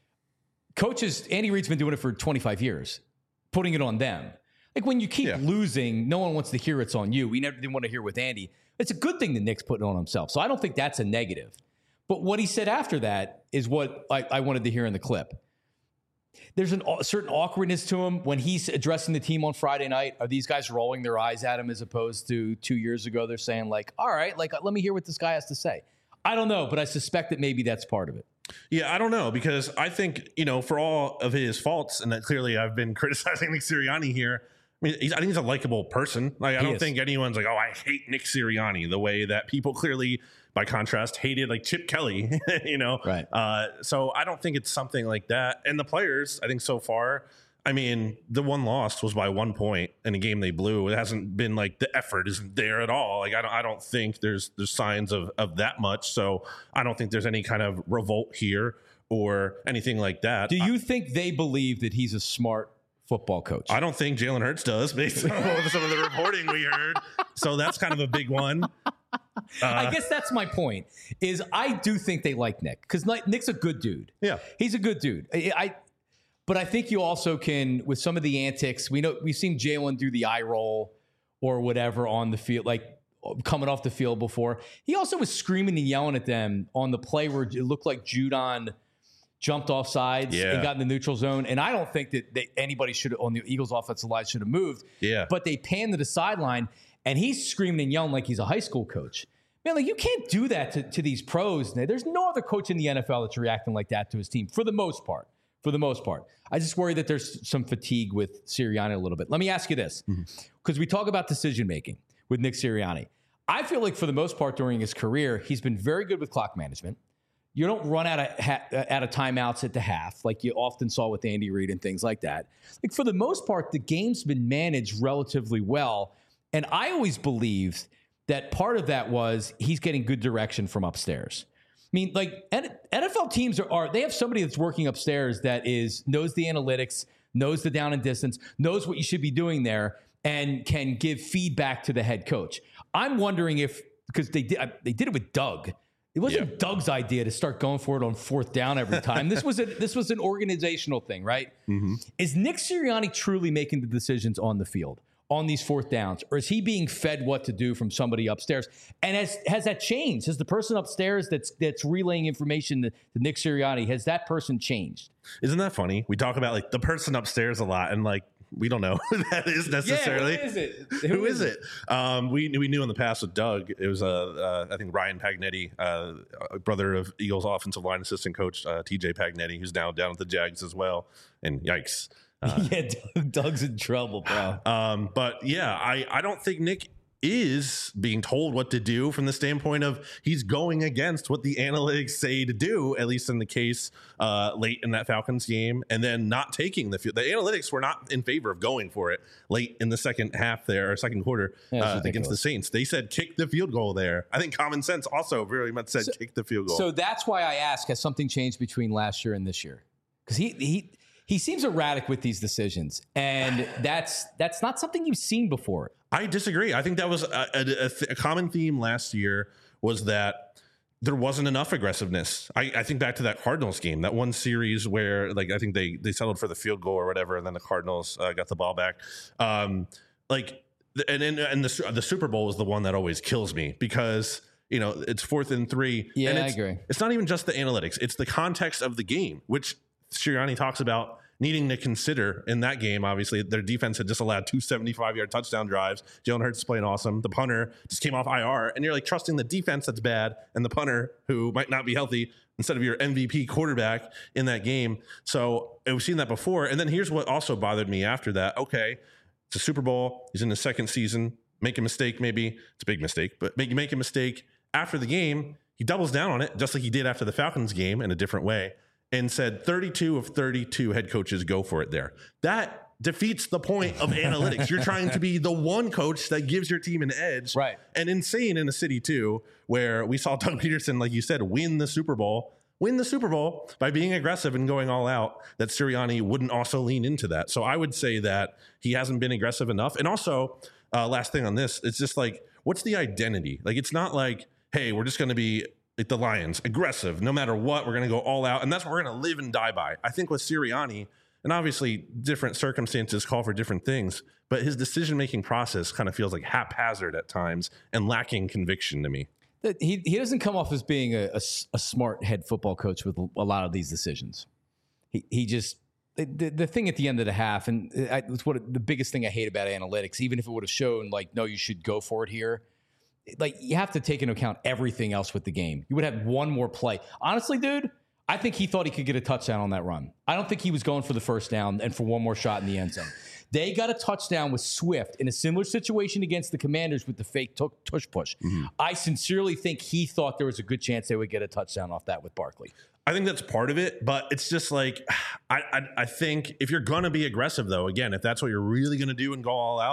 Coaches, Andy Reid's been doing it for 25 years, putting it on them. Like, when you keep losing, no one wants to hear it's on you. We never didn't want to hear with Andy. It's a good thing that Nick's putting it on himself. So I don't think that's a negative. But what he said after that is what I wanted to hear in the clip. There's a certain awkwardness to him when he's addressing the team on Friday night. Are these guys rolling their eyes at him as opposed to 2 years ago? They're saying, like, all right, like, let me hear what this guy has to say. I don't know, but I suspect that maybe that's part of it. Yeah, I don't know, because I think, for all of his faults, and that clearly I've been criticizing Nick Sirianni here, I think he's a likable person. Like, I don't think anyone's like, oh, I hate Nick Sirianni, the way that people clearly, by contrast, hated like Chip Kelly, Right. So I don't think it's something like that. And the players, I think so far, the one lost was by 1 point in a game they blew. It hasn't been like the effort isn't there at all. Like, I don't think there's signs of that much. So I don't think there's any kind of revolt here or anything like that. Do you think they believe that he's a smart football coach? I don't think Jalen Hurts does, based on some of the reporting we heard. So that's kind of a big one. I guess that's my point. Is I do think they like Nick because Nick's a good dude. Yeah, he's a good dude. But I think you also can, with some of the antics, we've seen Jalen do the eye roll or whatever on the field, like coming off the field before. He also was screaming and yelling at them on the play where it looked like Judon jumped off sides and got in the neutral zone. And I don't think that anybody should on the Eagles offensive line should have moved. Yeah. But they panned to the sideline and he's screaming and yelling like he's a high school coach. Man, like you can't do that to these pros. There's no other coach in the NFL that's reacting like that to his team for the most part. I just worry that there's some fatigue with Sirianni a little bit. Let me ask you this, because we talk about decision-making with Nick Sirianni. I feel like for the most part during his career, he's been very good with clock management. You don't run out of timeouts at the half like you often saw with Andy Reid and things like that. Like for the most part, the game's been managed relatively well. And I always believed that part of that was he's getting good direction from upstairs. I mean, like NFL teams they have somebody that's working upstairs that knows the analytics, knows the down and distance, knows what you should be doing there, and can give feedback to the head coach. I'm wondering because they did it with Doug. It wasn't Doug's idea to start going for it on fourth down every time. This was an organizational thing, right? Mm-hmm. Is Nick Sirianni truly making the decisions on the field on these fourth downs, or is he being fed what to do from somebody upstairs? And has that changed? Has the person upstairs that's relaying information to Nick Sirianni, has that person changed? Isn't that funny? We talk about like the person upstairs a lot, and like we don't know who that is necessarily. Yeah, who is it? Who is it? We knew in the past with Doug, it was I think Ryan Pagnetti, brother of Eagles offensive line assistant coach TJ Pagnetti, who's now down at the Jags as well. And yikes. Doug's in trouble, bro. But yeah, I don't think Nick is being told what to do from the standpoint of he's going against what the analytics say to do, at least in the case late in that Falcons game, and then not taking the field. The analytics were not in favor of going for it late in the second half there, or second quarter against the Saints. They said kick the field goal there. I think common sense also very much said kick the field goal. So that's why I ask, has something changed between last year and this year? Because he seems erratic with these decisions, and that's not something you've seen before. I disagree. I think that was a common theme last year, was that there wasn't enough aggressiveness. I think back to that Cardinals game, that one series where like I think they settled for the field goal or whatever, and then the Cardinals got the ball back. And the Super Bowl is the one that always kills me because it's 4th and 3. Yeah, and I agree. It's not even just the analytics; it's the context of the game, which Sirianni talks about needing to consider in that game. Obviously, their defense had just allowed 2 75-yard touchdown drives. Jalen Hurts is playing awesome. The punter just came off IR, and you're like trusting the defense that's bad and the punter who might not be healthy instead of your MVP quarterback in that game. So we've seen that before. And then here's what also bothered me after that. Okay, it's a Super Bowl. He's in his second season. Make a mistake, maybe. It's a big mistake, but make a mistake after the game. He doubles down on it, just like he did after the Falcons game in a different way, and said 32 of 32 head coaches go for it there. That defeats the point of analytics. You're trying to be the one coach that gives your team an edge. Right. And insane in a city, too, where we saw Doug Peterson, like you said, win the Super Bowl by being aggressive and going all out, that Sirianni wouldn't also lean into that. So I would say that he hasn't been aggressive enough. And also, last thing on this, it's just like, what's the identity? Like, it's not like, hey, we're just going to be like the Lions, aggressive, no matter what, we're going to go all out. And that's what we're going to live and die by. I think with Sirianni, and obviously different circumstances call for different things, but his decision-making process kind of feels like haphazard at times and lacking conviction to me. He doesn't come off as being a smart head football coach with a lot of these decisions. He just, the thing at the end of the half, and it's the biggest thing I hate about analytics, even if it would have shown like, no, you should go for it here. Like, you have to take into account everything else with the game. You would have one more play. Honestly, dude, I think he thought he could get a touchdown on that run. I don't think he was going for the first down and for one more shot in the end zone. They got a touchdown with Swift in a similar situation against the Commanders with the fake tush push. Mm-hmm. I sincerely think he thought there was a good chance they would get a touchdown off that with Barkley. I think that's part of it, but it's just like, I think if you're going to be aggressive, though, again, if that's what you're really going to do and go all out,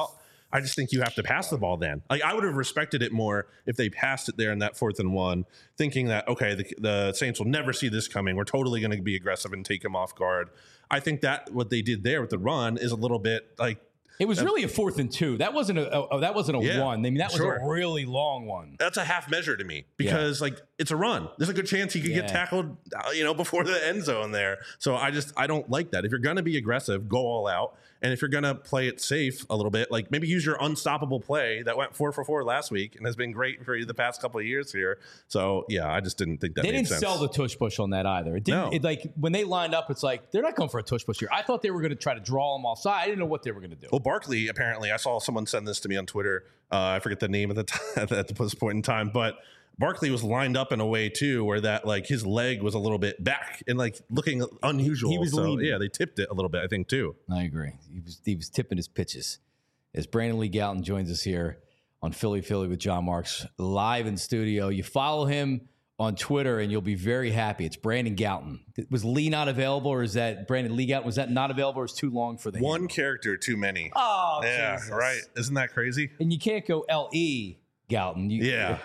I just think you have to pass the ball then. Like, I would have respected it more if they passed it there in that 4th and 1, thinking that, okay, the Saints will never see this coming. We're totally going to be aggressive and take them off guard. I think that what they did there with the run is a little bit like, it was really a 4th and 2. That wasn't a Yeah, one. I mean, that was sure. a really long one. that's a half measure to me because like it's a run. There's a good chance he could get tackled, before the end zone there. So I don't like that. If you're going to be aggressive, go all out. And if you're going to play it safe a little bit, like maybe use your unstoppable play that went 4 for 4 last week and has been great for the past couple of years here. So yeah, I just didn't think that they made didn't sense. sell the tush push on that either. It didn't. No. It, like when they lined up, it's like they're not going for a tush push here. I thought they were going to try to draw them offside. I didn't know what they were going to do. Well, Barkley, apparently, I saw someone send this to me on Twitter. I forget the name at the time, at this point in time, but Barkley was lined up in a way too, where that like his leg was a little bit back and like looking unusual. He was leaning. Yeah, they tipped it a little bit, I think too. I agree. He was tipping his pitches. As Brandon Lee Gowton joins us here on Philly with John Marks live in studio. You follow him on Twitter and you'll be very happy. It's Brandon Gowton. Was Lee not available, or is that Brandon Lee Gowton? Was that not available, or is too long for the One handle? character too many. Oh, yeah, Jesus. right. Isn't that crazy? And you can't go L.E. Gowton. Yeah,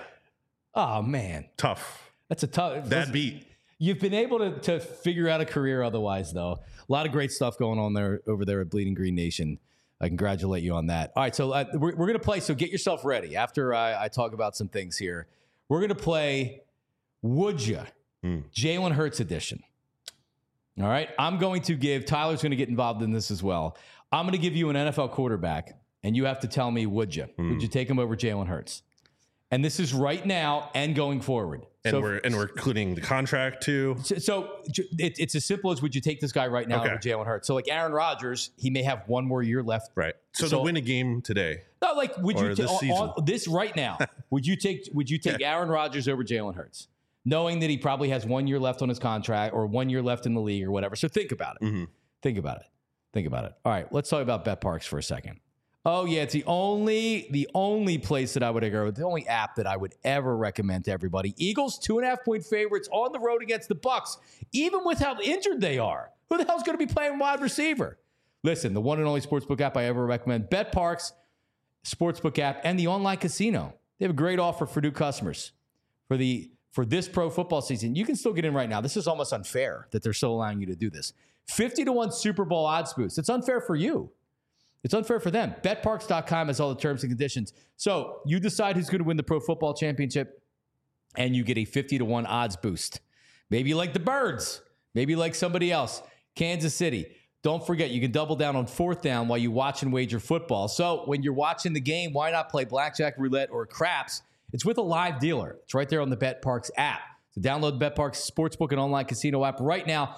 Oh man, tough. that's a tough. That beat. You've been able to figure out a career otherwise, though. A lot of great stuff going on there over there at Bleeding Green Nation. I congratulate you on that. All right, so we're going to play. So get yourself ready. After I talk about some things here, we're going to play Would Ya? Jalen Hurts edition. All right, I'm going to give, Tyler's going to get involved in this as well. I'm going to give you an NFL quarterback, and you have to tell me, would you? Would you take him over Jalen Hurts? And this is right now and going forward. And So- we're including the contract too. So it's as simple as, would you take this guy right now over Jalen Hurts? So like Aaron Rodgers, he may have one more year left. Right. So to win a game today. No, like would you this season. this right now? Would you take Aaron Rodgers over Jalen Hurts, knowing that he probably has 1 year left on his contract or 1 year left in the league or whatever? So think about it. Mm-hmm. Think about it. Think about it. All right, let's talk about BetParks for a second. Oh yeah, it's the only place that I would go, the only app that I would ever recommend to everybody. Eagles 2.5-point favorites on the road against the Bucs, even with how injured they are. Who the hell's going to be playing wide receiver? Listen, the one and only sportsbook app I ever recommend, BetParks sportsbook app and the online casino. They have a great offer for new customers for this pro football season. You can still get in right now. This is almost unfair that they're still allowing you to do this. 50-1 Super Bowl odds boost. It's unfair for you. It's unfair for them. BetParks.com has all the terms and conditions. So you decide who's going to win the Pro Football Championship, and you get a 50-1 odds boost. Maybe you like the Birds. Maybe you like somebody else. Kansas City. Don't forget, you can double down on 4th down while you watch and wager football. So when you're watching the game, why not play blackjack, roulette, or craps? It's with a live dealer. It's right there on the BetParks app. So download the BetParks Sportsbook and online casino app right now.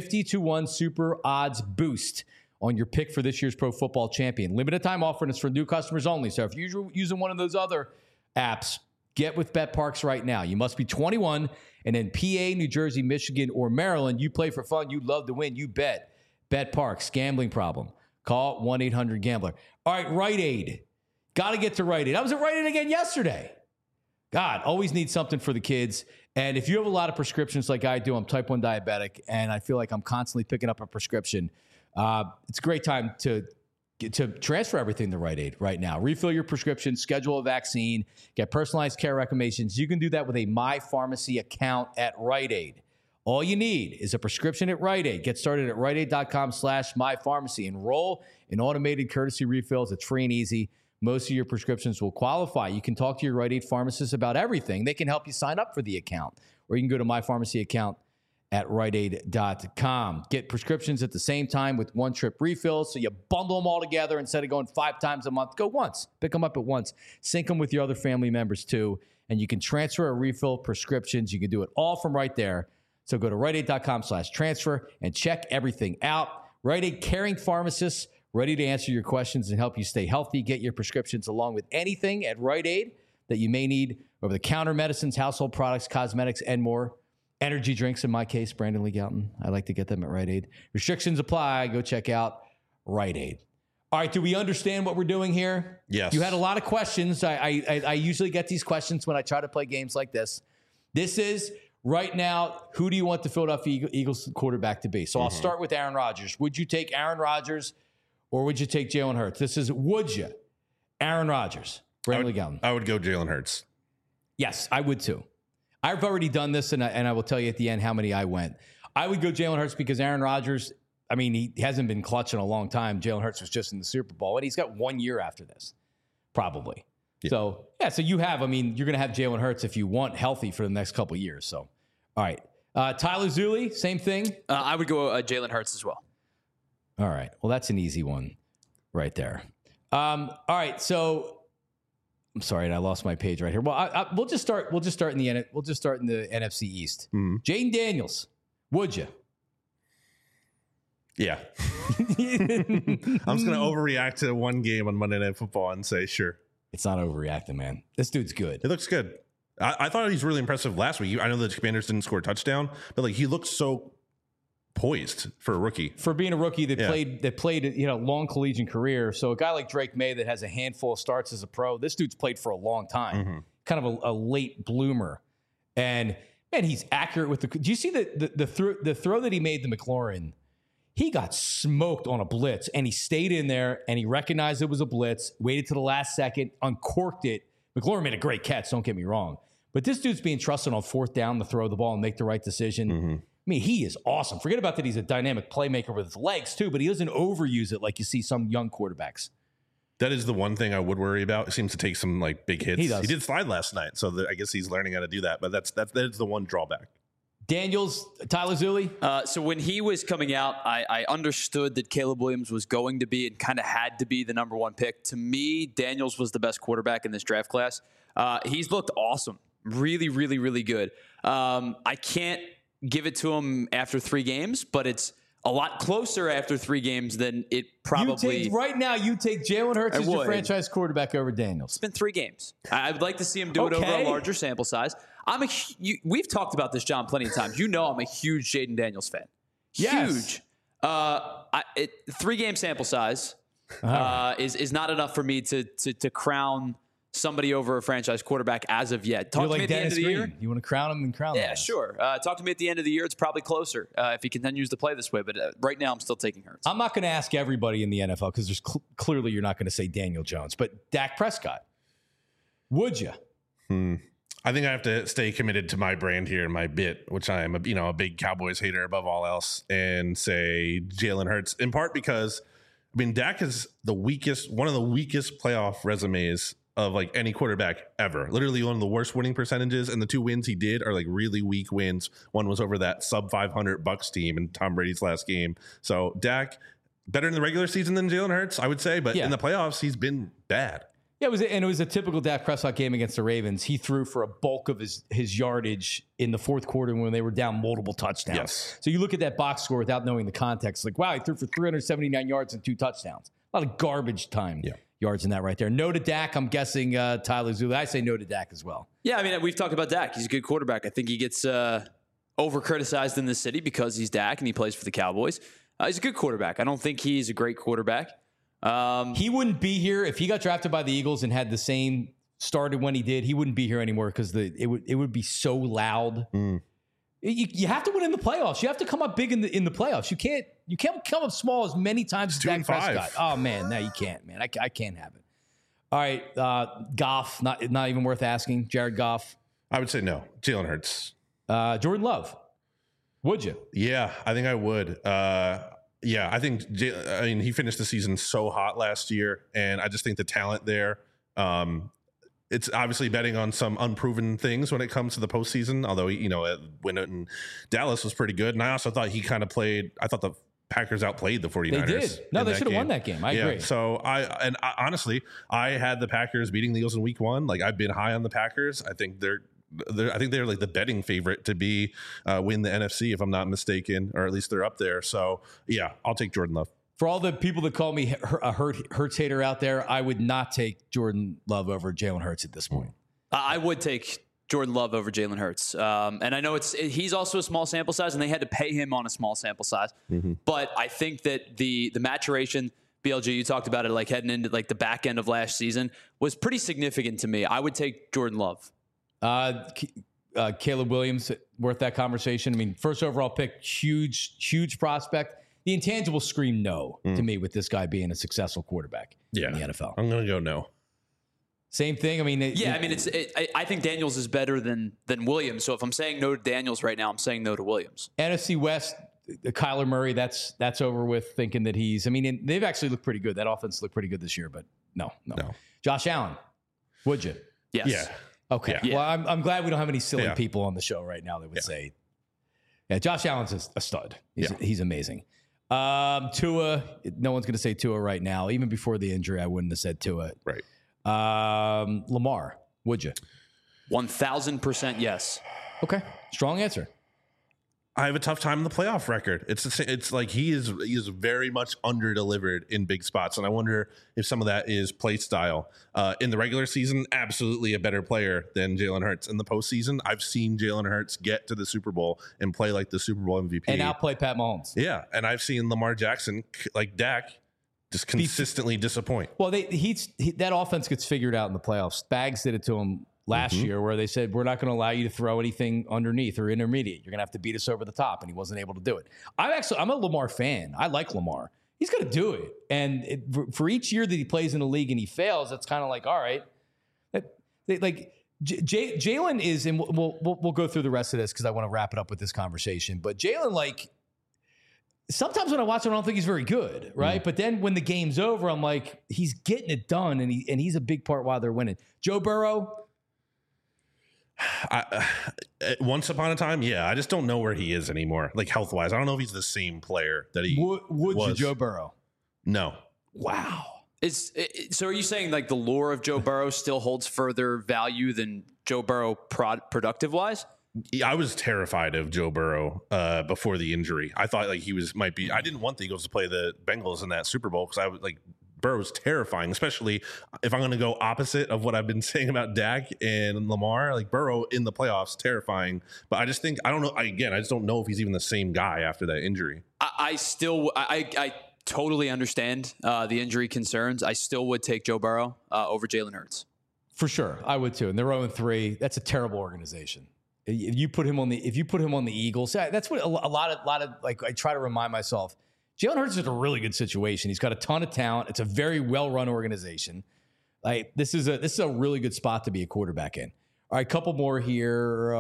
50-1 super odds boost on your pick for this year's Pro Football Champion. Limited time offer, and it's for new customers only. So if you're using one of those other apps, get with BetParks right now. You must be 21 and in PA, New Jersey, Michigan, or Maryland. You play for fun. You love to win. You bet. BetParks. Gambling problem. Call 1-800-GAMBLER. All right, Rite Aid. Got to get to Rite Aid. I was at Rite Aid again yesterday. God, always need something for the kids. And if you have a lot of prescriptions like I do, I'm type 1 diabetic, and I feel like I'm constantly picking up a prescription. It's a great time to transfer everything to Rite Aid right now. Refill your prescription, schedule a vaccine, get personalized care recommendations. You can do that with a My Pharmacy account at Rite Aid. All you need is a prescription at Rite Aid. Get started at riteaid.com/mypharmacy. Enroll in automated courtesy refills. It's free and easy. Most of your prescriptions will qualify. You can talk to your Rite Aid pharmacist about everything. They can help you sign up for the account, or you can go to My Pharmacy account at riteaid.com. Get prescriptions at the same time with one-trip refills, so you bundle them all together instead of going 5 times a month. Go once. Pick them up at once. Sync them with your other family members too, and you can transfer or refill prescriptions. You can do it all from right there. So go to riteaid.com/transfer and check everything out. Rite Aid caring pharmacists ready to answer your questions and help you stay healthy. Get your prescriptions along with anything at Rite Aid that you may need: over-the-counter medicines, household products, cosmetics, and more. Energy drinks, in my case, Brandon Lee Gowton. I like to get them at Rite Aid. Restrictions apply. Go check out Rite Aid. All right, do we understand what we're doing here? Yes. You had a lot of questions. I usually get these questions when I try to play games like this. This is, right now, who do you want the Philadelphia Eagles quarterback to be? So I'll start with Aaron Rodgers. Would you take Aaron Rodgers or would you take Jalen Hurts? This is would you? Aaron Rodgers. Brandon Galton. I would go Jalen Hurts. Yes, I would too. I've already done this, and I will tell you at the end how many I went. I would go Jalen Hurts because Aaron Rodgers, I mean, he hasn't been clutch in a long time. Jalen Hurts was just in the Super Bowl, and he's got 1 year after this, probably. Yeah. So you have, I mean, you're going to have Jalen Hurts if you want healthy for the next couple of years. So, all right. Tyler Zuli, same thing? I would go Jalen Hurts as well. All right. Well, that's an easy one right there. All right. So, I'm sorry, and I lost my page right here. Well, we'll just start in the NFC East. Jaden Daniels, would you? Yeah. I'm just going to overreact to one game on Monday Night Football and say, sure. It's not overreacting, man. This dude's good. It looks good. I thought he was really impressive last week. I know the Commanders didn't score a touchdown, but like he looked so poised for a rookie. For being a rookie that played a long collegiate career. So a guy like Drake May that has a handful of starts as a pro, this dude's played for a long time. Kind of a late bloomer. And man, he's accurate with do you see the throw that he made to McLaurin? He got smoked on a blitz, and he stayed in there, and he recognized it was a blitz, waited to the last second, uncorked it. McLaurin made a great catch, don't get me wrong. But this dude's being trusted on fourth down to throw the ball and make the right decision. I mean, he is awesome. Forget about that he's a dynamic playmaker with his legs, too, but he doesn't overuse it like you see some young quarterbacks. That is the one thing I would worry about. It seems to take some like big hits. He does. He did slide last night, so I guess he's learning how to do that. But that is the one drawback. Daniels, Tyler Zuli? So when he was coming out, I understood that Caleb Williams was going to be and kind of had to be the number one pick. To me, Daniels was the best quarterback in this draft class. He's looked awesome. Really, really, really good. I can't give it to him after 3 games, but it's a lot closer after 3 games than it probably. Right now, you take Jalen Hurts as your franchise quarterback over Daniels. It's been 3 games. I would like to see him do it over a larger sample size. We've talked about this, John, plenty of times. You know I'm a huge Jaden Daniels fan. Yes. Huge. 3-game sample size is not enough for me to crown somebody over a franchise quarterback as of yet. Talk to me at the end of the year. You want to crown him and crown him. Yeah, sure. Talk to me at the end of the year. It's probably closer if he continues to play this way. But right now, I'm still taking Hurts. I'm not going to ask everybody in the NFL because there's clearly you're not going to say Daniel Jones. But Dak Prescott, would you? I think I have to stay committed to my brand here and my bit, which I am a big Cowboys hater above all else, and say Jalen Hurts, in part because, I mean, Dak is one of the weakest playoff resumes of like any quarterback ever. Literally one of the worst winning percentages, and the 2 wins he did are like really weak wins. One was over that sub 500 Bucs team in Tom Brady's last game. So Dak, better in the regular season than Jalen Hurts, I would say, but in the playoffs, he's been bad. Yeah, it was a typical Dak Prescott game against the Ravens. He threw for a bulk of his yardage in the fourth quarter when they were down multiple touchdowns. Yes. So you look at that box score without knowing the context. Like, wow, he threw for 379 yards and 2 touchdowns. A lot of garbage time yards in that right there. No to Dak. I'm guessing Tyler Zuli. I say no to Dak as well. Yeah, I mean, we've talked about Dak. He's a good quarterback. I think he gets over-criticized in this city because he's Dak and he plays for the Cowboys. He's a good quarterback. I don't think he's a great quarterback. He wouldn't be here if he got drafted by the Eagles and had the same started when he did. He wouldn't be here anymore because it would be so loud. You have to win in the playoffs. You have to come up big in the playoffs. You can't come up small as many times as Dak Prescott. Oh man, no, you can't, man. I can't have it. All right, Goff, not even worth asking. Jared Goff. I would say no. Jalen Hurts. Jordan Love. Would you? Yeah, I think I would. Yeah, I think, he finished the season so hot last year, and I just think the talent there, it's obviously betting on some unproven things when it comes to the postseason, although, when in Dallas was pretty good. And I also thought I thought the Packers outplayed the 49ers. They did. No, they should have won that game. I agree. So honestly, I had the Packers beating the Eagles in week 1. Like, I've been high on the Packers. I think they're like the betting favorite to be win the NFC, if I'm not mistaken, or at least they're up there. So yeah, I'll take Jordan Love. For all the people that call me a Hurts hater out there, I would not take Jordan Love over Jalen Hurts at this point. I would take Jordan Love over Jalen Hurts. And I know he's also a small sample size, and they had to pay him on a small sample size. But I think that the maturation, BLG, you talked about it, like heading into like the back end of last season, was pretty significant to me. I would take Jordan Love. Caleb Williams, worth that conversation. I mean, first overall pick, huge prospect. The intangibles scream no to me with this guy being a successful quarterback in the NFL. I'm going to go no. Same thing. I mean, I think Daniels is better than Williams. So if I'm saying no to Daniels right now, I'm saying no to Williams. NFC West, Kyler Murray, that's over with. Thinking that they've actually looked pretty good. That offense looked pretty good this year, but no. Josh Allen, would you? Yes. Yeah. Okay. Yeah. Well, I'm glad we don't have any silly people on the show right now that would say, yeah, Josh Allen's a stud. He's amazing. Tua, no one's going to say Tua right now. Even before the injury, I wouldn't have said Tua. Right. Lamar, would you? 1,000% yes. Okay. Strong answer. I have a tough time in the playoff record. It's like he is very much under delivered in big spots, and I wonder if some of that is play style. In the regular season, absolutely a better player than Jalen Hurts. In the postseason, I've seen Jalen Hurts get to the Super Bowl and play like the Super Bowl MVP and outplay Pat Mahomes. Yeah, and I've seen Lamar Jackson like Dak just consistently disappoint. Well, that offense gets figured out in the playoffs. Spags did it to him last year, where they said, we're not going to allow you to throw anything underneath or intermediate. You're going to have to beat us over the top, and he wasn't able to do it. I'm a Lamar fan. I like Lamar. He's going to do it. And for each year that he plays in the league and he fails, it's kind of like, all right. Jalen is, and we'll go through the rest of this because I want to wrap it up with this conversation. But Jalen, sometimes when I watch him, I don't think he's very good, right? But then when the game's over, I'm like, he's getting it done, and he's a big part why they're winning. Joe Burrow. Once upon a time, I just don't know where he is anymore, like health wise. I don't know if he's the same player that he would was. You Joe Burrow? No. Wow. So are you saying like the lore of Joe Burrow still holds further value than Joe Burrow productive wise? I was terrified of Joe Burrow before the injury. I thought like might be. I didn't want the Eagles to play the Bengals in that Super Bowl because I was like, Burrow's terrifying, especially if I'm going to go opposite of what I've been saying about Dak and Lamar. Like Burrow in the playoffs, terrifying. But I just think, I don't know. I just don't know if he's even the same guy after that injury. I totally understand the injury concerns. I still would take Joe Burrow over Jalen Hurts. For sure. I would too. And they're 0-3. That's a terrible organization. If you put him on the Eagles, that's what a lot of like, I try to remind myself, Jalen Hurts is in a really good situation. He's got a ton of talent. It's a very well-run organization. Like this is a really good spot to be a quarterback in. All right, couple more here.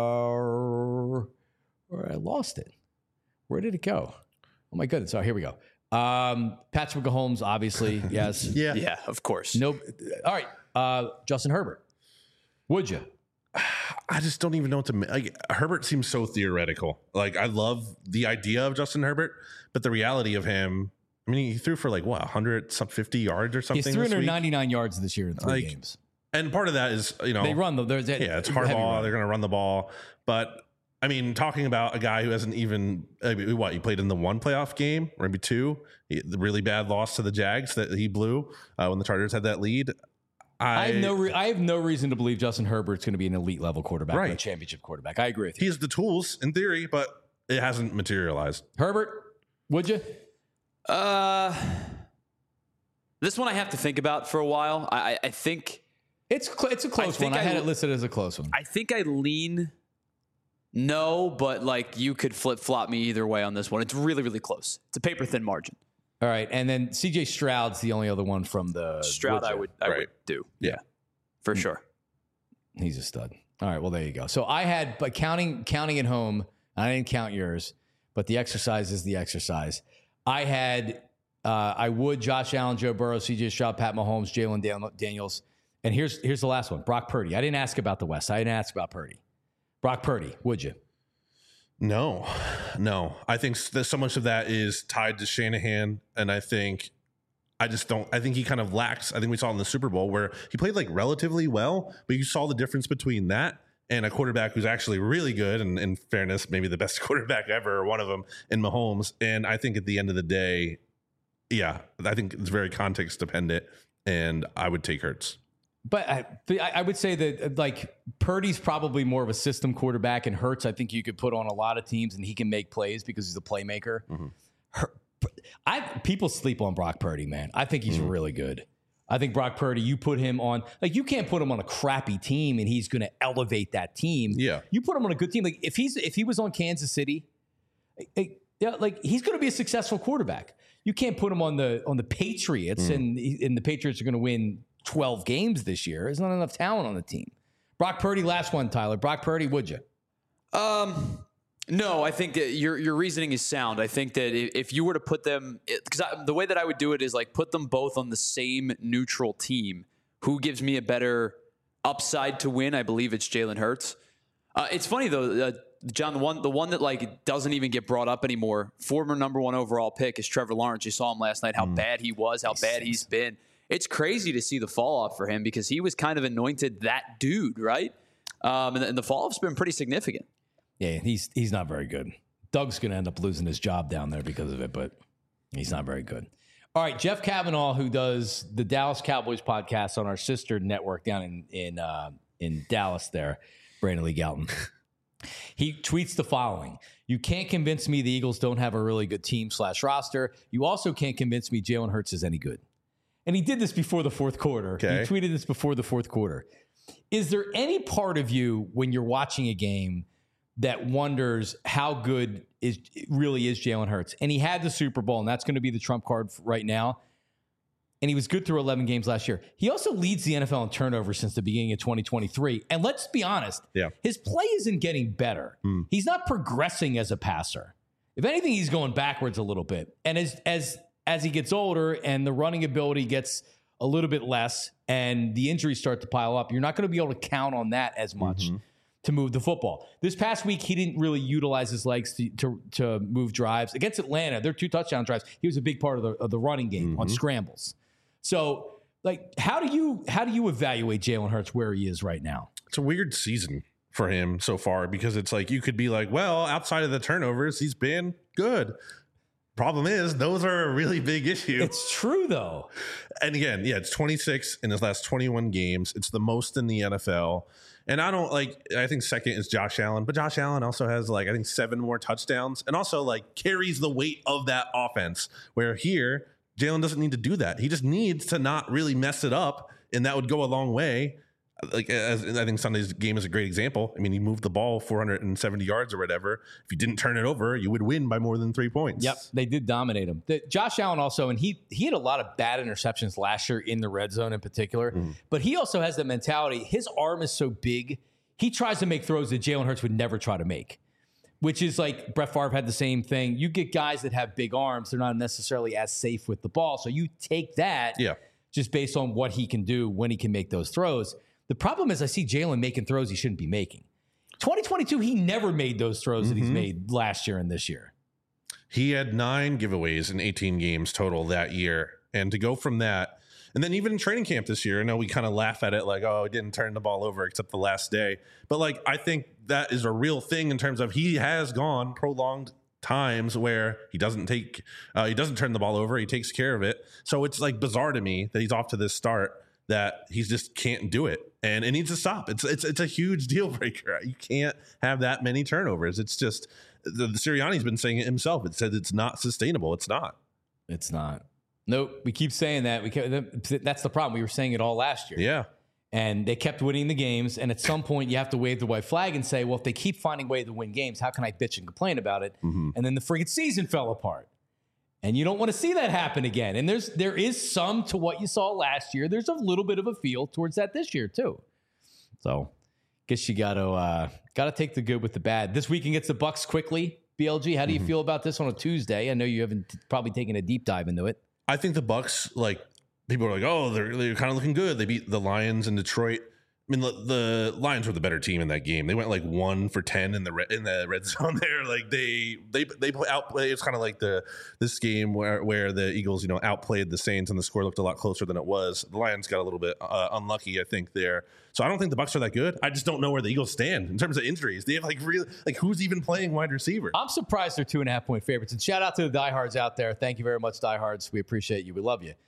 I lost it. Where did it go? Oh my goodness! Oh, here we go. Patrick Mahomes, obviously, yes. Yeah, of course. No. All right, Justin Herbert. Would you? I just don't even know what to make. Like, Herbert seems so theoretical. Like, I love the idea of Justin Herbert, but the reality of him, I mean, he threw for like, 150 yards or something. He's 399 yards this year in three games. And part of that is, they run them. It's hardball. They're going to run the ball. But, I mean, talking about a guy who hasn't even, he played in the one playoff game, or maybe two, the really bad loss to the Jags that he blew when the Chargers had that lead. I have no reason to believe Justin Herbert's going to be an elite level quarterback or a championship quarterback. I agree with you. He has the tools in theory, but it hasn't materialized. Herbert, would you? This one I have to think about for a while. I think it's a close one. I had it listed as a close one. I think I lean no, but like you could flip flop me either way on this one. It's really, really close. It's a paper thin margin. All right, and then C.J. Stroud's the only other one from the Stroud. I would do, for sure. He's a stud. All right, well there you go. So I had, but counting at home, I didn't count yours, but the exercise is the exercise. I had, I would Josh Allen, Joe Burrow, C.J. Stroud, Pat Mahomes, Jalen Daniels, and here's the last one, Brock Purdy. I didn't ask about the West. I didn't ask about Purdy. Brock Purdy, would you? No. I think that so much of that is tied to Shanahan, and I think he kind of lacks. I think we saw in the Super Bowl where he played like relatively well, but you saw the difference between that and a quarterback who's actually really good, and in fairness, maybe the best quarterback ever, or one of them, in Mahomes. And I think at the end of the day, I think it's very context dependent, and I would take Hurts. But I would say that like Purdy's probably more of a system quarterback, and Hurts, I think you could put on a lot of teams and he can make plays because he's a playmaker. People sleep on Brock Purdy, man. I think he's really good. I think Brock Purdy, you put him on, like you can't put him on a crappy team and he's going to elevate that team. Yeah. You put him on a good team. Like if he was on Kansas City, like he's going to be a successful quarterback. You can't put him on the Patriots and the Patriots are going to win 12 games this year. There's not enough talent on the team. Brock Purdy, last one, Tyler. Brock Purdy, would you? No, I think that your reasoning is sound. I think that if you were to put them, because the way that I would do it is like put them both on the same neutral team. Who gives me a better upside to win? I believe it's Jalen Hurts. It's funny though, John. The one that like doesn't even get brought up anymore. Former number 1 overall pick is Trevor Lawrence. You saw him last night. How bad he was. How bad he's been. It's crazy to see the fall off for him because he was kind of anointed that dude, right? And the fall off's been pretty significant. Yeah, he's not very good. Doug's going to end up losing his job down there because of it, but he's not very good. All right, Jeff Kavanaugh, who does the Dallas Cowboys podcast on our sister network down in Dallas there, Brandon Lee Galton. He tweets the following. You can't convince me the Eagles don't have a really good team / roster. You also can't convince me Jalen Hurts is any good. And he did this before the fourth quarter. Okay. He tweeted this before the fourth quarter. Is there any part of you when you're watching a game that wonders how good really is Jalen Hurts? And he had the Super Bowl, and that's going to be the trump card right now. And he was good through 11 games last year. He also leads the NFL in turnovers since the beginning of 2023. And let's be honest, his play isn't getting better. He's not progressing as a passer. If anything, he's going backwards a little bit. And as he gets older and the running ability gets a little bit less and the injuries start to pile up, you're not going to be able to count on that as much to move the football. This past week, he didn't really utilize his legs to move drives. Against Atlanta, their 2 touchdown drives, he was a big part of the running game on scrambles. So, like, how do you evaluate Jalen Hurts where he is right now? It's a weird season for him so far because it's like you could be like, well, outside of the turnovers, he's been good. Problem is, those are a really big issue. It's true, though. And again, it's 26 in his last 21 games. It's the most in the NFL. And I think second is Josh Allen, but Josh Allen also has I think 7 more touchdowns and also carries the weight of that offense, where here Jalen doesn't need to do that. He just needs to not really mess it up, and that would go a long way. As I think Sunday's game is a great example. I mean, he moved the ball 470 yards or whatever. If you didn't turn it over, you would win by more than 3 points. Yep, they did dominate him. Josh Allen also, and he had a lot of bad interceptions last year in the red zone in particular, but he also has the mentality. His arm is so big, he tries to make throws that Jalen Hurts would never try to make, which is like Brett Favre had the same thing. You get guys that have big arms, they're not necessarily as safe with the ball, so you take that just based on what he can do when he can make those throws. The problem is I see Jalen making throws he shouldn't be making. 2022, he never made those throws that he's made last year and this year. He had 9 giveaways in 18 games total that year. And to go from that, and then even in training camp this year, I know we kind of laugh at it like, oh, he didn't turn the ball over except the last day. But I think that is a real thing in terms of he has gone prolonged times where he doesn't turn the ball over. He takes care of it. So it's bizarre to me that he's off to this start, that he just can't do it, and it needs to stop. It's a huge deal breaker. You can't have that many turnovers. It's just the Sirianni's been saying it himself. It said it's not sustainable. It's not. It's not. Nope. We keep saying that. That's the problem. We were saying it all last year. Yeah. And they kept winning the games. And at some point, you have to wave the white flag and say, well, if they keep finding a way to win games, how can I bitch and complain about it? And then the friggin' season fell apart. And you don't want to see that happen again. And there is some to what you saw last year. There's a little bit of a feel towards that this year too. So, guess you got to take the good with the bad. This weekend gets the Bucks quickly. BLG, how do you feel about this on a Tuesday? I know you haven't probably taken a deep dive into it. I think the Bucks, people are like, oh, they're kind of looking good. They beat the Lions in Detroit. I mean, the Lions were the better team in that game. They went 1 for 10 in the red zone there. They outplayed. It's kind of like this game where the Eagles, outplayed the Saints and the score looked a lot closer than it was. The Lions got a little bit unlucky, I think, there. So I don't think the Bucs are that good. I just don't know where the Eagles stand in terms of injuries. They have who's even playing wide receiver? I'm surprised they're 2.5-point favorites. And shout out to the diehards out there. Thank you very much, diehards. We appreciate you. We love you.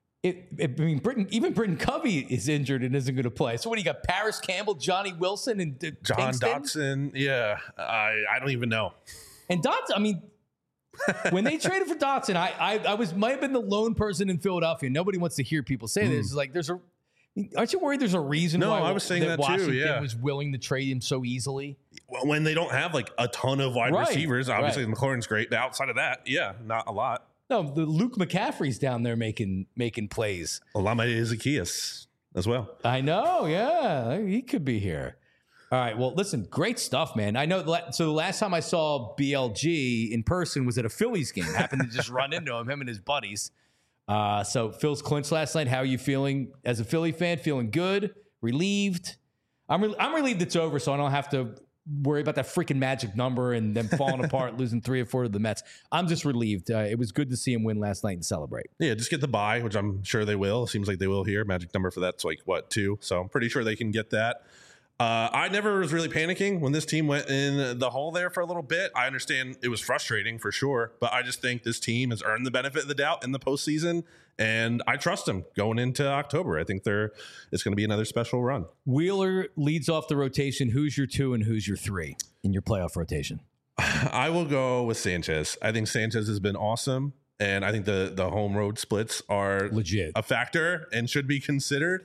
Britton Covey is injured and isn't going to play. So what do you got? Paris Campbell, Johnny Wilson, and John Pinkston? Dotson. Yeah, I don't even know. And Dotson, I mean, when they traded for Dotson, I might have been the lone person in Philadelphia. Nobody wants to hear people say this. It's aren't you worried? There's a reason why I was saying that Washington too. Yeah, was willing to trade him so easily. When they don't have a ton of wide receivers, obviously McLaurin's great. But outside of that, not a lot. No, the Luke McCaffrey's down there making plays. Olama Zacchaeus as well. I know, yeah. He could be here. All right, well, listen, great stuff, man. I know, so the last time I saw BLG in person was at a Phillies game. Happened to just run into him and his buddies. So Phil's clinched last night. How are you feeling as a Philly fan? Feeling good? Relieved? I'm relieved it's over, so I don't have to worry about that freaking magic number and them falling apart, losing 3 or 4 to the Mets. I'm just relieved. It was good to see him win last night and celebrate. Yeah, just get the bye, which I'm sure they will. It seems like they will here. Magic number for that's like, 2? So I'm pretty sure they can get that. I never was really panicking when this team went in the hole there for a little bit. I understand it was frustrating for sure, but I just think this team has earned the benefit of the doubt in the postseason, and I trust them going into October. I think it's going to be another special run. Wheeler leads off the rotation. Who's your 2 and who's your 3 in your playoff rotation? I will go with Sanchez. I think Sanchez has been awesome, and I think the home road splits are legit a factor and should be considered.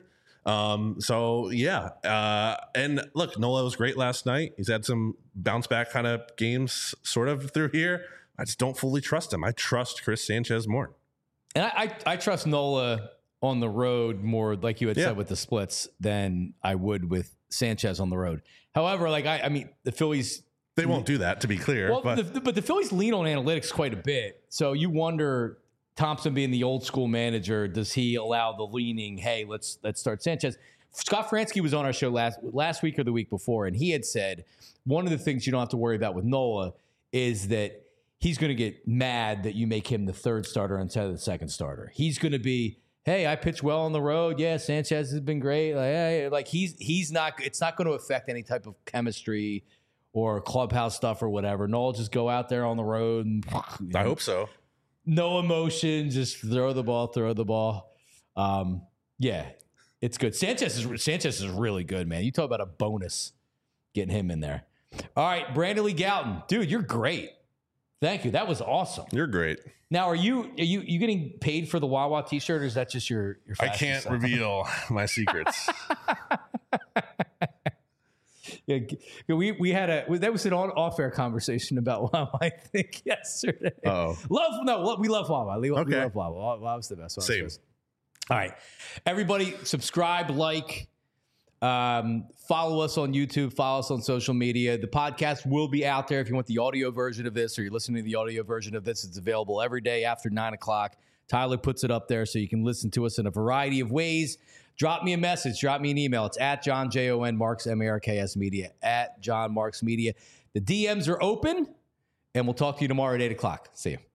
So yeah. And look, Nola was great last night. He's had some bounce back kind of games sort of through here. I just don't fully trust him. I trust Chris Sanchez more. And I trust Nola on the road more, like you had said with the splits, than I would with Sanchez on the road. However, like I mean, the Phillies, they won't do that, to be clear. Well, but the Phillies lean on analytics quite a bit. So you wonder, Thompson being the old school manager, does he allow the leaning, hey, let's start Sanchez? Scott Fransky was on our show last week or the week before, and he had said one of the things you don't have to worry about with Nola is that he's going to get mad that you make him the third starter instead of the second starter. He's going to be, hey, I pitched well on the road. Yeah, Sanchez has been great. Like, hey, like he's not. It's not going to affect any type of chemistry or clubhouse stuff or whatever. Nola just go out there on the road and I hope so. No emotion, just throw the ball. Yeah, it's good. Sanchez is really good, man. You talk about a bonus getting him in there. All right, Brandon Lee Gowton. Dude, you're great. Thank you. That was awesome. You're great. Now, are you getting paid for the Wawa t-shirt, or is that just your I can't reveal my secrets. Yeah, we had that was an off-air conversation about Wawa, I think, yesterday. Oh, we love Wawa. We love Wawa. Wawa's the best. Same. All right, everybody, subscribe, like, follow us on YouTube, follow us on social media. The podcast will be out there if you want the audio version of this, or you're listening to the audio version of this. It's available every day after 9:00. Tyler puts it up there so you can listen to us in a variety of ways. Drop me a message. Drop me an email. It's at John, Jon Marks, Marks Media, at John Marks Media. The DMs are open, and we'll talk to you tomorrow at 8:00. See you.